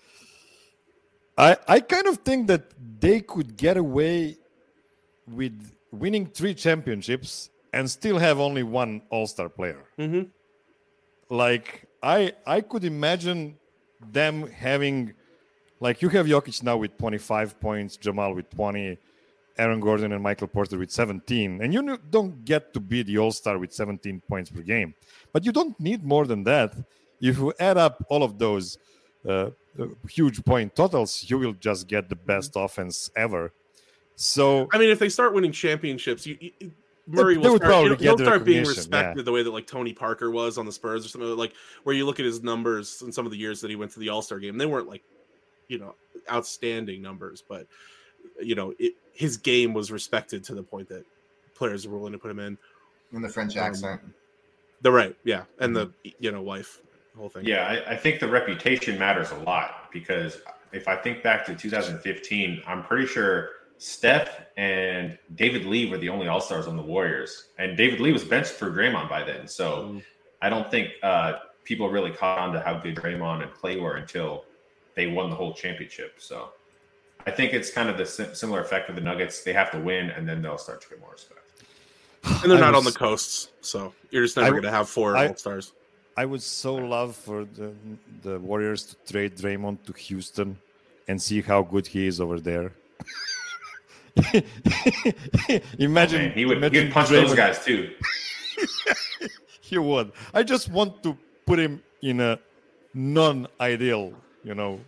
I I kind of think that they could get away with winning three championships and still have only one All-Star player. mm-hmm. Like I I could imagine them having, like, you have Jokic now with twenty-five points, Jamal with twenty, Aaron Gordon and Michael Porter with seventeen, and you n- don't get to be the All-Star with seventeen points per game, but you don't need more than that. If you add up all of those uh, uh, huge point totals, you will just get the best offense ever. So I mean, if they start winning championships, you, you Murray they will would start, probably he'll, get he'll the start being recognition, respected yeah. the way that like Tony Parker was on the Spurs or something, like where you look at his numbers in some of the years that he went to the All-Star game. They weren't like, you know, outstanding numbers, but you know, it, his game was respected to the point that players were willing to put him in. In the French Um, accent. The right, yeah, and the you know wife, the whole thing. Yeah, I, I think the reputation matters a lot because if I think back to two thousand fifteen, I'm pretty sure Steph and David Lee were the only All-Stars on the Warriors, and David Lee was benched for Draymond by then. So Mm. I don't think uh, people really caught on to how good Draymond and Clay were until they won the whole championship. So I think it's kind of the sim- similar effect with the Nuggets. They have to win, and then they'll start to get more respect. And they're I not was- on the coasts, so you're just never I- going to have four I- All-Stars. I would so love for the the Warriors to trade Draymond to Houston and see how good he is over there. imagine Man, he would imagine he'd punch those Draymond- guys too. He would. I just want to put him in a non-ideal, you know,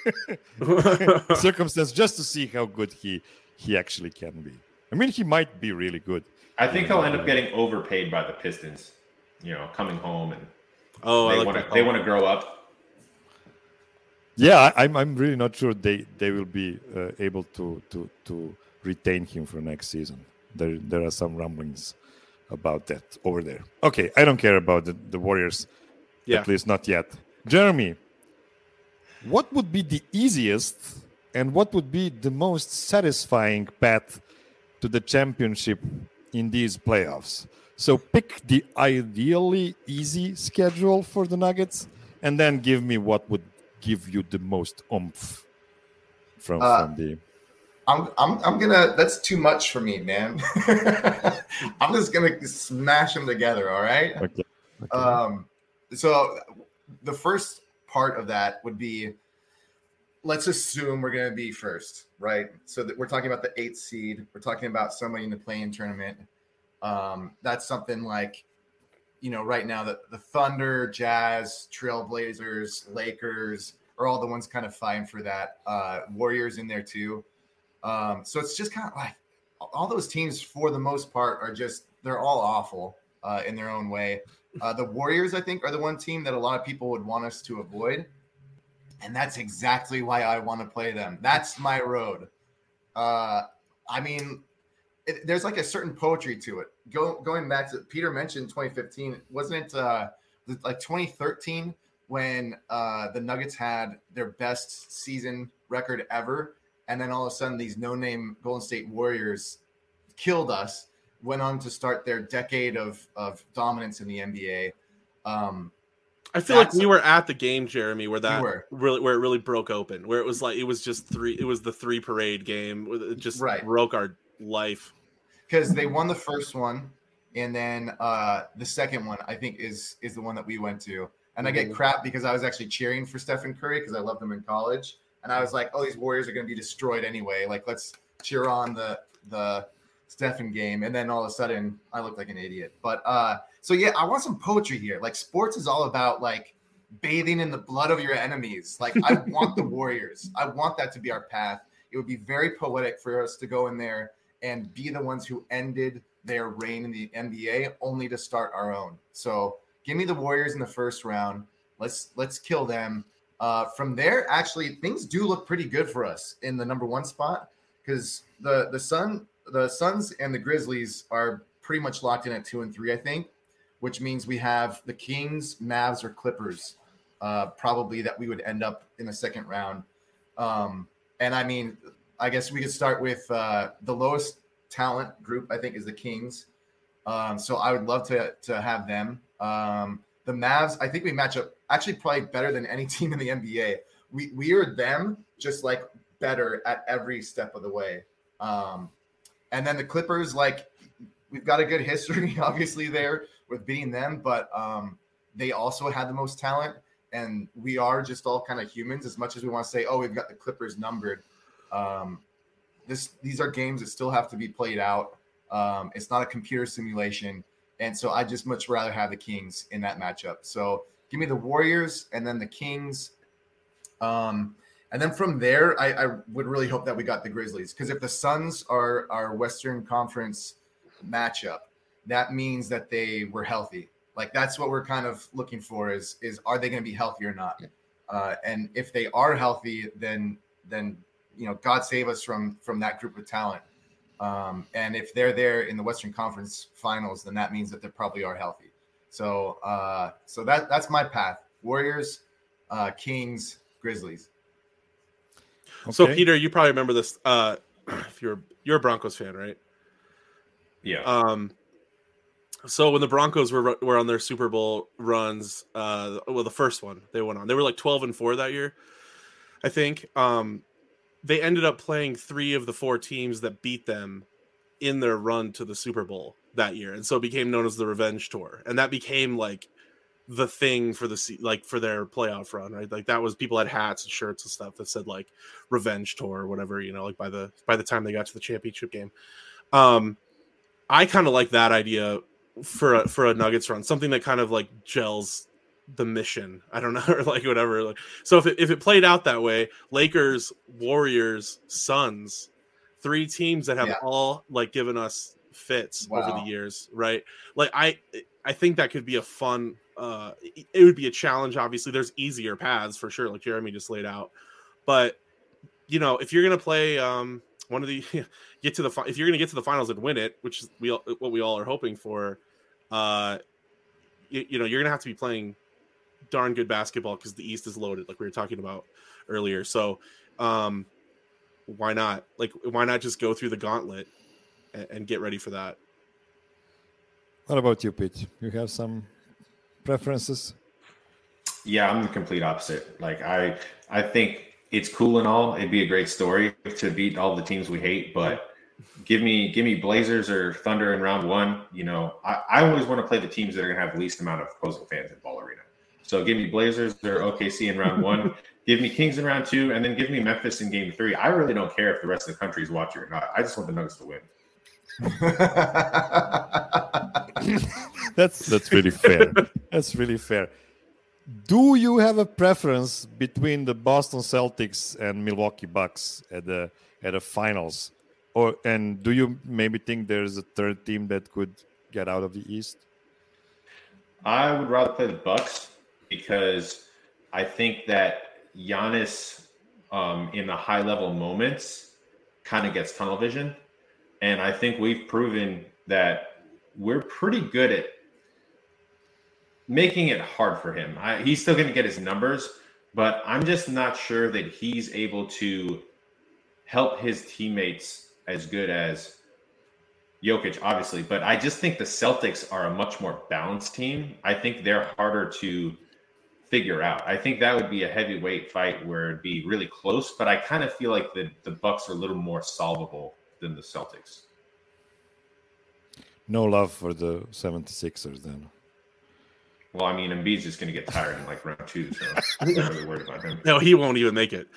circumstance just to see how good he he actually can be. I mean, he might be really good. I think he'll end up getting overpaid by the Pistons. You know, coming home and Oh, I they like want that to they call. want to grow up. Yeah, I, I'm I'm really not sure they they will be uh, able to to to retain him for next season. There there are some rumblings about that over there. Okay, I don't care about the, the Warriors, Yeah. at least not yet. Jeremy, what would be the easiest and what would be the most satisfying path to the championship in these playoffs? So pick the ideally easy schedule for the Nuggets and then give me what would give you the most oomph from, Uh, from the... I'm I'm I'm gonna. That's too much for me, man. I'm just gonna smash them together. All right. Okay. okay. Um. So the first part of that would be, let's assume we're gonna be first, right? So that we're talking about the eighth seed. We're talking about somebody in the play-in tournament. Um. That's something like, you know, right now the the Thunder, Jazz, Trailblazers, Lakers are all the ones kind of fighting for that. Uh, Warriors in there too. Um, so it's just kind of like all those teams, for the most part, are just they're all awful uh, in their own way. Uh, the Warriors, I think, are the one team that a lot of people would want us to avoid, and that's exactly why I want to play them. That's my road. Uh, I mean, it, there's like a certain poetry to it. Go, going back to Peter mentioned twenty fifteen, wasn't it uh, like twenty thirteen when uh, the Nuggets had their best season record ever? And then all of a sudden, these no-name Golden State Warriors killed us, went on to start their decade of, of dominance in the N B A. Um, I feel like That's- we were at the game, Jeremy, where that were. really where it really broke open, where it was like it was just three. It was the three parade game. It just Right. broke our life. because they won the first one, and then uh, the second one, I think, is is the one that we went to. And I get Mhm. crap because I was actually cheering for Stephen Curry because I loved him in college. And I was like, oh, these Warriors are going to be destroyed anyway. Like, let's cheer on the the Stephen game. And then all of a sudden, I look like an idiot. But uh, so, yeah, I want some poetry here. Like, sports is all about, like, bathing in the blood of your enemies. Like, I want the Warriors. I want that to be our path. It would be very poetic for us to go in there and be the ones who ended their reign in the N B A only to start our own. So give me the Warriors in the first round. Let's let's kill them. Uh, from there, actually, things do look pretty good for us in the number one spot because the the Sun, the Suns and the Grizzlies are pretty much locked in at two and three, I think, which means we have the Kings, Mavs, or Clippers, uh, probably that we would end up in the second round. Um, and I mean, I guess we could start with uh, the lowest talent group, I think, is the Kings. Um, so I would love to to have them. Um, the Mavs, I think we match up actually probably better than any team in the N B A. We we are them, just like better at every step of the way. Um, and then the Clippers, like we've got a good history, obviously there with beating them, but um, they also had the most talent, and we are just all kind of humans. As much as we want to say, oh, we've got the Clippers numbered. Um, this these are games that still have to be played out. Um, it's not a computer simulation. And so I just much rather have the Kings in that matchup. So give me the Warriors and then the Kings. Um, And then from there, I, I would really hope that we got the Grizzlies, because if the Suns are our Western Conference matchup, that means that they were healthy. Like that's what we're kind of looking for is, is are they going to be healthy or not? Uh, and if they are healthy, then, then, you know, God save us from, from that group of talent. Um, and if they're there in the Western Conference Finals, then that means that they probably are healthy. So, uh, so that, that's my path. Warriors, uh, Kings, Grizzlies. Okay. So Peter, you probably remember this. Uh, if you're you're a Broncos fan, right? Yeah. Um. So when the Broncos were were on their Super Bowl runs, uh, well, the first one they went on, they were like twelve and four that year, I think. Um, they ended up playing three of the four teams that beat them in their run to the Super Bowl that year, and so it became known as the Revenge Tour, and that became like the thing for the like for their playoff run, right? Like that was, people had hats and shirts and stuff that said like Revenge Tour or whatever, you know, like by the by the time they got to the championship game. Um, I kind of like that idea for a, for a Nuggets run, something that kind of like gels the mission. I don't know, or like whatever. Like, so if it, if it played out that way, Lakers, Warriors, Suns, three teams that have Yeah. all like given us fits Wow. over the years, right? Like I I think that could be a fun. Uh, it would be a challenge. Obviously, there's easier paths for sure, like Jeremy just laid out. But you know, if you're gonna play um, one of the get to the fi- if you're gonna get to the finals and win it, which is we all, what we all are hoping for, uh, you, you know, you're gonna have to be playing darn good basketball because the East is loaded, like we were talking about earlier. So, um, why not? Like, why not just go through the gauntlet and, and get ready for that? What about you, Pete? You have some preferences? Yeah, I'm the complete opposite. Like I, I think it's cool and all. It'd be a great story to beat all the teams we hate, but give me, give me Blazers or Thunder in round one. You know, I, I always want to play the teams that are going to have the least amount of opposing fans in Ball Arena. So give me Blazers or O K C in round one. Give me Kings in round two, and then give me Memphis in game three. I really don't care if the rest of the country is watching or not. I just want the Nuggets to win. that's that's really fair. That's really fair. Do you have a preference between the Boston Celtics and Milwaukee Bucks at the at the finals, or and do you maybe think there's a third team that could get out of the East? I would rather play the Bucks because I think that Giannis um, in the high level moments kind of gets tunnel vision. And I think we've proven that we're pretty good at making it hard for him. I, he's still going to get his numbers, but I'm just not sure that he's able to help his teammates as good as Jokic, obviously. But I just think the Celtics are a much more balanced team. I think they're harder to figure out. I think that would be a heavyweight fight where it'd be really close, but I kind of feel like the, the Bucks are a little more solvable than the Celtics. No love for the seventy-sixers then. Well, I mean, Embiid's just going to get tired in like round two, so I'm not really worried about him. No, he won't even make it.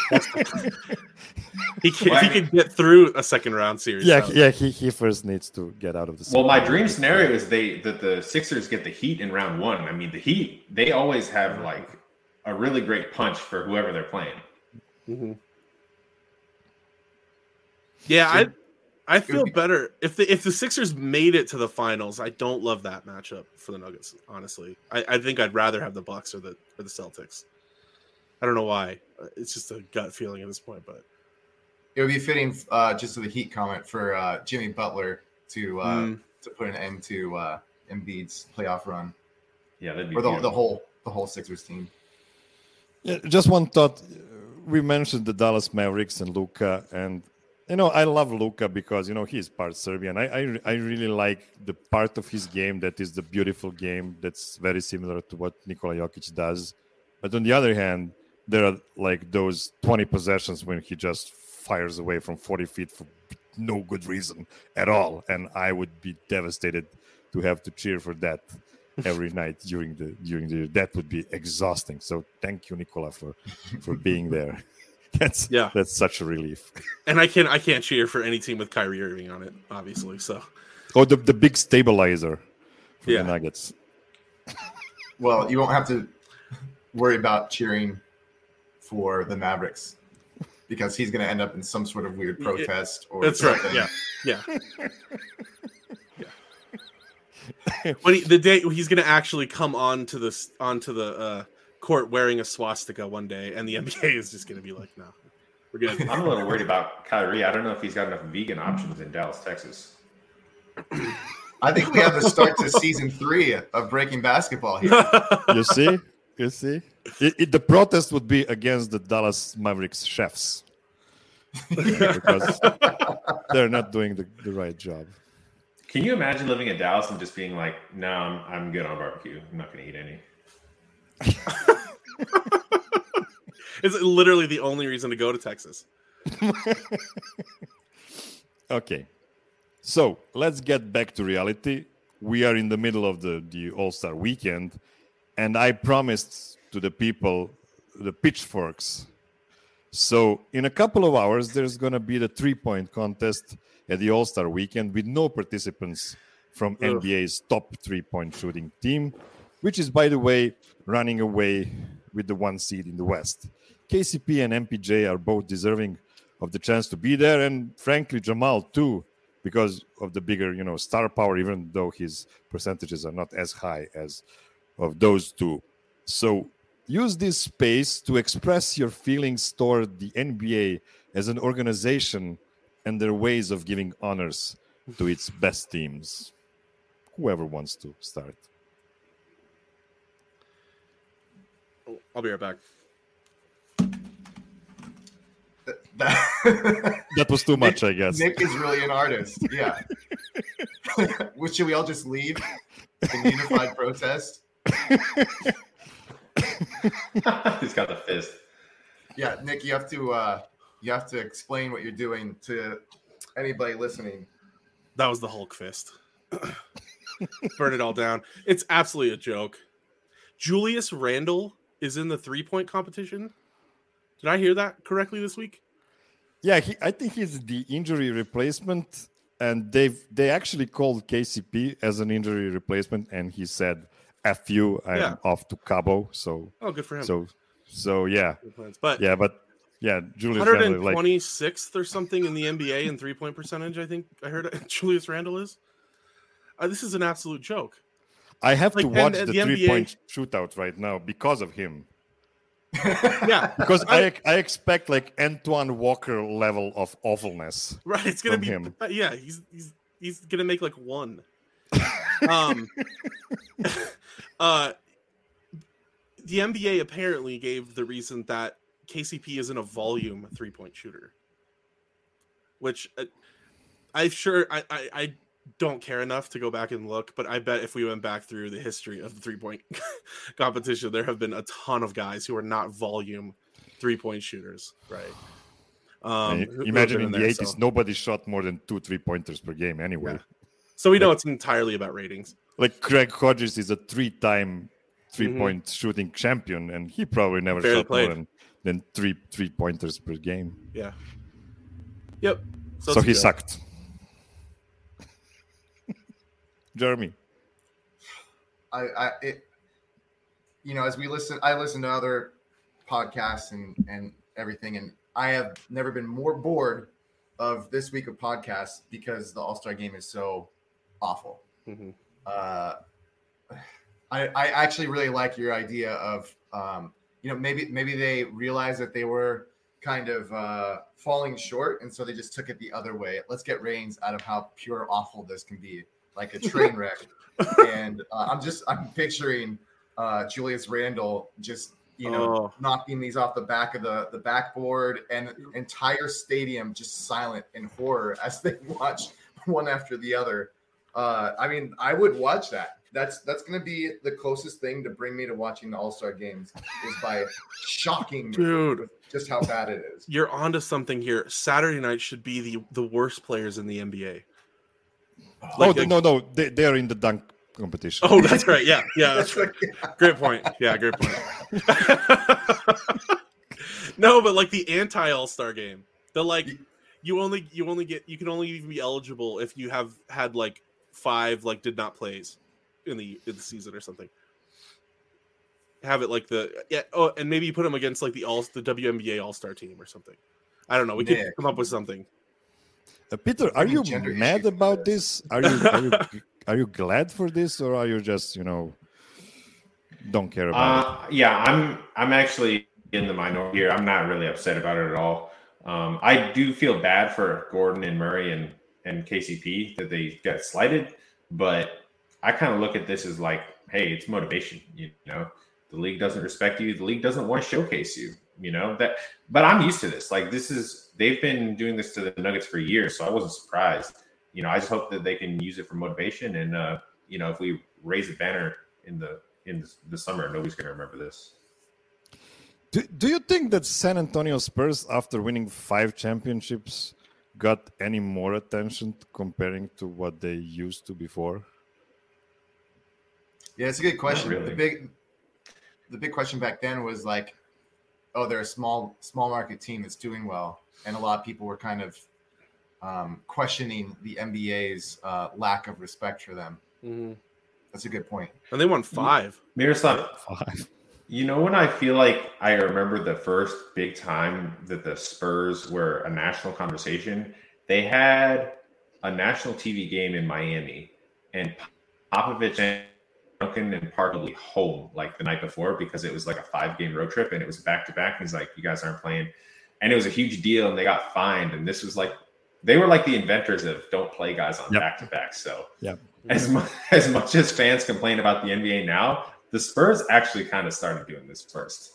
he can, Well, he I mean, could get through a second round series. Yeah, so. yeah. He, he first needs to get out of the. Well, my second dream round. scenario is they that the Sixers get the Heat in round one. I mean, the Heat, they always have like a really great punch for whoever they're playing. Mm-hmm. Yeah, I I feel better if the if the Sixers made it to the finals. I don't love that matchup for the Nuggets. Honestly, I, I think I'd rather have the Bucks or the or the Celtics. I don't know why. It's just a gut feeling at this point, but it would be fitting, uh, just to the Heat comment, for uh, Jimmy Butler to uh, Mm. to put an end to uh, Embiid's playoff run, Yeah, that'd be or the, beautiful. the whole the whole Sixers team. Yeah, just one thought. We mentioned the Dallas Mavericks and Luka, and you know I love Luka because you know he's part Serbian. I, I I really like the part of his game that is the beautiful game that's very similar to what Nikola Jokic does. But on the other hand, there are like those twenty possessions when he just fires away from forty feet for no good reason at all, and I would be devastated to have to cheer for that every night during the during the year. That would be exhausting. So thank you, Nikola, for for being there. That's Yeah. that's such a relief. and I can't I can't cheer for any team with Kyrie Irving on it, obviously. So Oh, the the big stabilizer for Yeah. the Nuggets. Well, you won't have to worry about cheering for the Mavericks because he's going to end up in some sort of weird protest or That's something. right. Yeah. Yeah. yeah. But he, the day he's going to actually come on to this onto the uh, court wearing a swastika one day, and the N B A is just going to be like, no, we're good. I'm a little worried about Kyrie. I don't know if he's got enough vegan options in Dallas, Texas. I think we have the start to season three of Breaking Basketball here. You see? You see? It, it, the protest would be against the Dallas Mavericks chefs. Because they're not doing the, the right job. Can you imagine living in Dallas and just being like, no, I'm, I'm good on barbecue. I'm not going to eat any. It's literally the only reason to go to Texas. Okay. So let's get back to reality. We are in the middle of the, the All-Star weekend, and I promised to the people the pitchforks. So in a couple of hours, there's going to be the three-point contest at the All-Star weekend with no participants from Ugh. N B A's top three-point shooting team, which is, by the way, running away with the one seed in the West. K C P and M P J are both deserving of the chance to be there, and frankly, Jamal too, because of the bigger, you know, star power, even though his percentages are not as high as of those two. So use this space to express your feelings toward the N B A as an organization and their ways of giving honors to its best teams. Whoever wants to start. I'll be right back. That, that was too much, Nick, I guess. Nick is really an artist. Yeah. Should we all just leave in unified protest? He's got the fist. Yeah, Nick, you have to uh, you have to explain what you're doing to anybody listening. That was the Hulk fist. Burn it all down. It's absolutely a joke. Julius Randle is in the three-point competition. Did I hear that correctly this week? Yeah, he, I think he's the injury replacement, and they've they actually called K C P as an injury replacement, and he said, "F you, I'm Yeah. off to Cabo." So, Oh, good for him. so, so yeah, Good plans. But yeah, but yeah, Julius Randle, like, one hundred twenty-sixth or something in the N B A in three-point percentage, I think I heard it. Julius Randle is. Uh, this is an absolute joke. I have Like, to and- watch and the, the N B A three-point shootout right now because of him. Yeah, Because I I expect like Antoine Walker level of awfulness. right. It's gonna from be. him. Yeah, he's he's he's gonna make like one. um. uh. The N B A apparently gave the reason that K C P isn't a volume three-point shooter, which uh, I'm sure I, I I don't care enough to go back and look, but I bet if we went back through the history of the three-point competition, there have been a ton of guys who are not volume three-point shooters, right? Um, And who- who have imagine been in the there, eighties, so- nobody shot more than two three-pointers per game anyway. Yeah. So we know it's entirely about ratings. Like Craig Hodges is a three-time three-point shooting champion, and he probably never Barely shot played. more than, than three three-pointers per game. Yeah. Yep. So, it's a he joke. sucked. Jeremy. I, I it, you know, as we listen, I listen to other podcasts and and everything, and I have never been more bored of this week of podcasts because the All-Star game is so awful. Mhm. Uh, I I actually really like your idea of um, you know, maybe maybe they realized that they were kind of uh, falling short, and so they just took it the other way. Let's get ratings out of how pure awful this can be, like a train wreck. and uh, I'm just I'm picturing uh, Julius Randle just you know Oh. knocking these off the back of the the backboard, and the entire stadium just silent in horror as they watch one after the other. Uh, I mean, I would watch that. That's that's going to be the closest thing to bring me to watching the All-Star games is by shocking me Dude. with just how bad it is. You're onto something here. Saturday night should be the, the worst players in the N B A. Oh, Like, th- no, no, they, they are in the dunk competition. Oh, that's right. Yeah, yeah, that's right. Great point. Yeah, great point. No, but like the anti All-Star game, the like you only you only get you can only even be eligible if you have had like five like did not plays in the in the season or something. have it like the yeah. Oh, and maybe you put him against like the all the W N B A All Star team or something. I don't know. We Nick. could come up with something. Uh, Peter, are you Gender mad issues about with this? Are you are you are you glad for this, or are you just you know don't care about Uh, yeah, I'm I'm actually in the minority here. I'm not really upset about it at all. Um, I do feel bad for Gordon and Murray and and K C P that they got slighted, but I kind of look at this as like, hey, it's motivation. You know, the league doesn't respect you. The league doesn't want to showcase you. You know that, but I'm used to this. Like this is they've been doing this to the Nuggets for years, so I wasn't surprised. You know, I just hope that they can use it for motivation. And uh, you know, if we raise a banner in the in the summer, nobody's going to remember this. Do, do you think that San Antonio Spurs, after winning five championships, got any more attention comparing to what they used to before? Yeah, it's a good question. really. The big, the big question back then was like, oh, they're a small, small market team that's doing well, and a lot of people were kind of um, questioning the N B A's uh, lack of respect for them. Mm-hmm. That's a good point. And they won five. Miroslav, Five. you know when I feel like I remember the first big time that the Spurs were a national conversation? They had a national T V game in Miami, and Popovich and Duncan and Park will be home like the night before because it was like a five-game road trip and it was back-to-back. He's like, you guys aren't playing. And it was a huge deal, and they got fined. And this was like, they were like the inventors of don't play guys on Yep. back-to-back. So Yep. as much, as much as fans complain about the N B A now, the Spurs actually kind of started doing this first.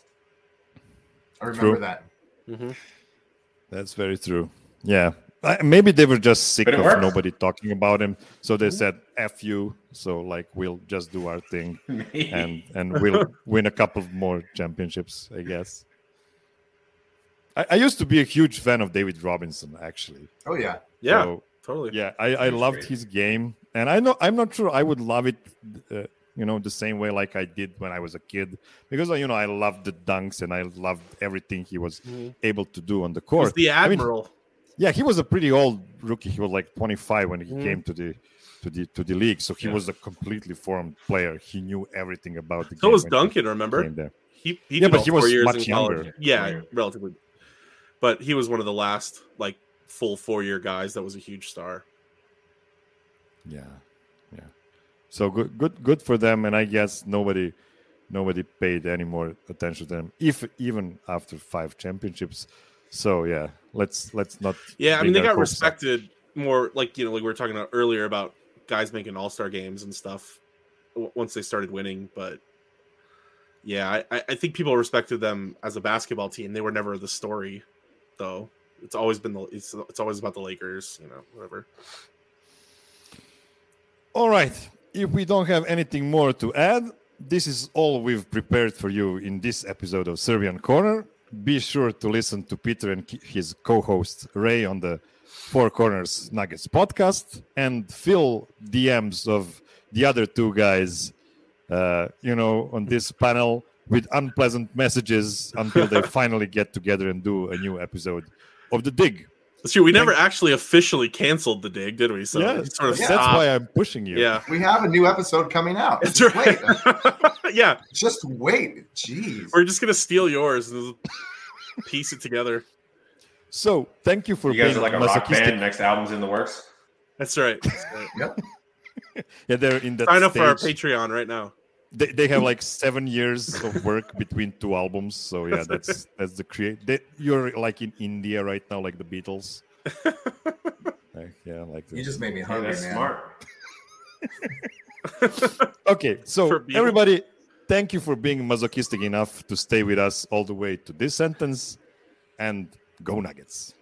I remember True. that. Mm-hmm. That's very true. Yeah. I- Maybe they were just sick But it of works. nobody talking about him. So they said, F you. So, like, we'll just do our thing. and and we'll win a couple more championships, I guess. I, I used to be a huge fan of David Robinson, actually. Oh yeah. Yeah, So, totally. yeah, I, I He's loved great. his game, and I know I'm not sure I would love it, uh, you know, the same way like I did when I was a kid, because you know I loved the dunks and I loved everything he was Mhm. able to do on the He court. was the I mean, admiral. yeah, he was a pretty old rookie. He was like twenty-five when he Mhm. came to the to the to the league, so he Yeah. was a completely formed player. He knew everything about the so game. was when he Duncan. Remember? came there. He he Yeah, did but all he four was years much in college. younger. Yeah, Four years. relatively. But he was one of the last like full four year guys that was a huge star. Yeah, yeah. So good, good, good for them. And I guess nobody, nobody paid any more attention to them, if even after five championships. So yeah, let's let's not. Yeah, I bring mean they our got hopes up. respected more, like you know, like we were talking about earlier about guys making all star games and stuff w- once they started winning. But yeah, I, I- I think people respected them as a basketball team. They were never the story, though. It's always been the it's it's always about the Lakers, you know, whatever. All right. If we don't have anything more to add, this is all we've prepared for you in this episode of Serbian Corner. Be sure to listen to Peter and ki- his co-host Ray on the Four Corners Nuggets podcast, and fill D Ms of the other two guys, uh, you know, on this panel with unpleasant messages until they finally get together and do a new episode of The Dig. That's true. We never actually officially canceled the dig, did we? So yeah, it sort of Yeah. that's stopped. why I'm pushing you. Yeah, We have a new episode coming out. that's Just right. wait. Yeah, Just wait. Jeez. we're just gonna steal yours and piece it together. So thank you for You guys being are like a rock masochistic. band. Next album's in the works. That's right. That's right. Yep. Yeah, they're in that Sign up for our stage. Patreon right now. They, they have like seven years of work between two albums. So yeah, that's that's the create. They, you're like in India right now, like the Beatles. Like, yeah, like the, You just made me Hey, hungry, that's man. smart. okay. For So Beatles. everybody, thank you for being masochistic enough to stay with us all the way to this sentence, and go Nuggets.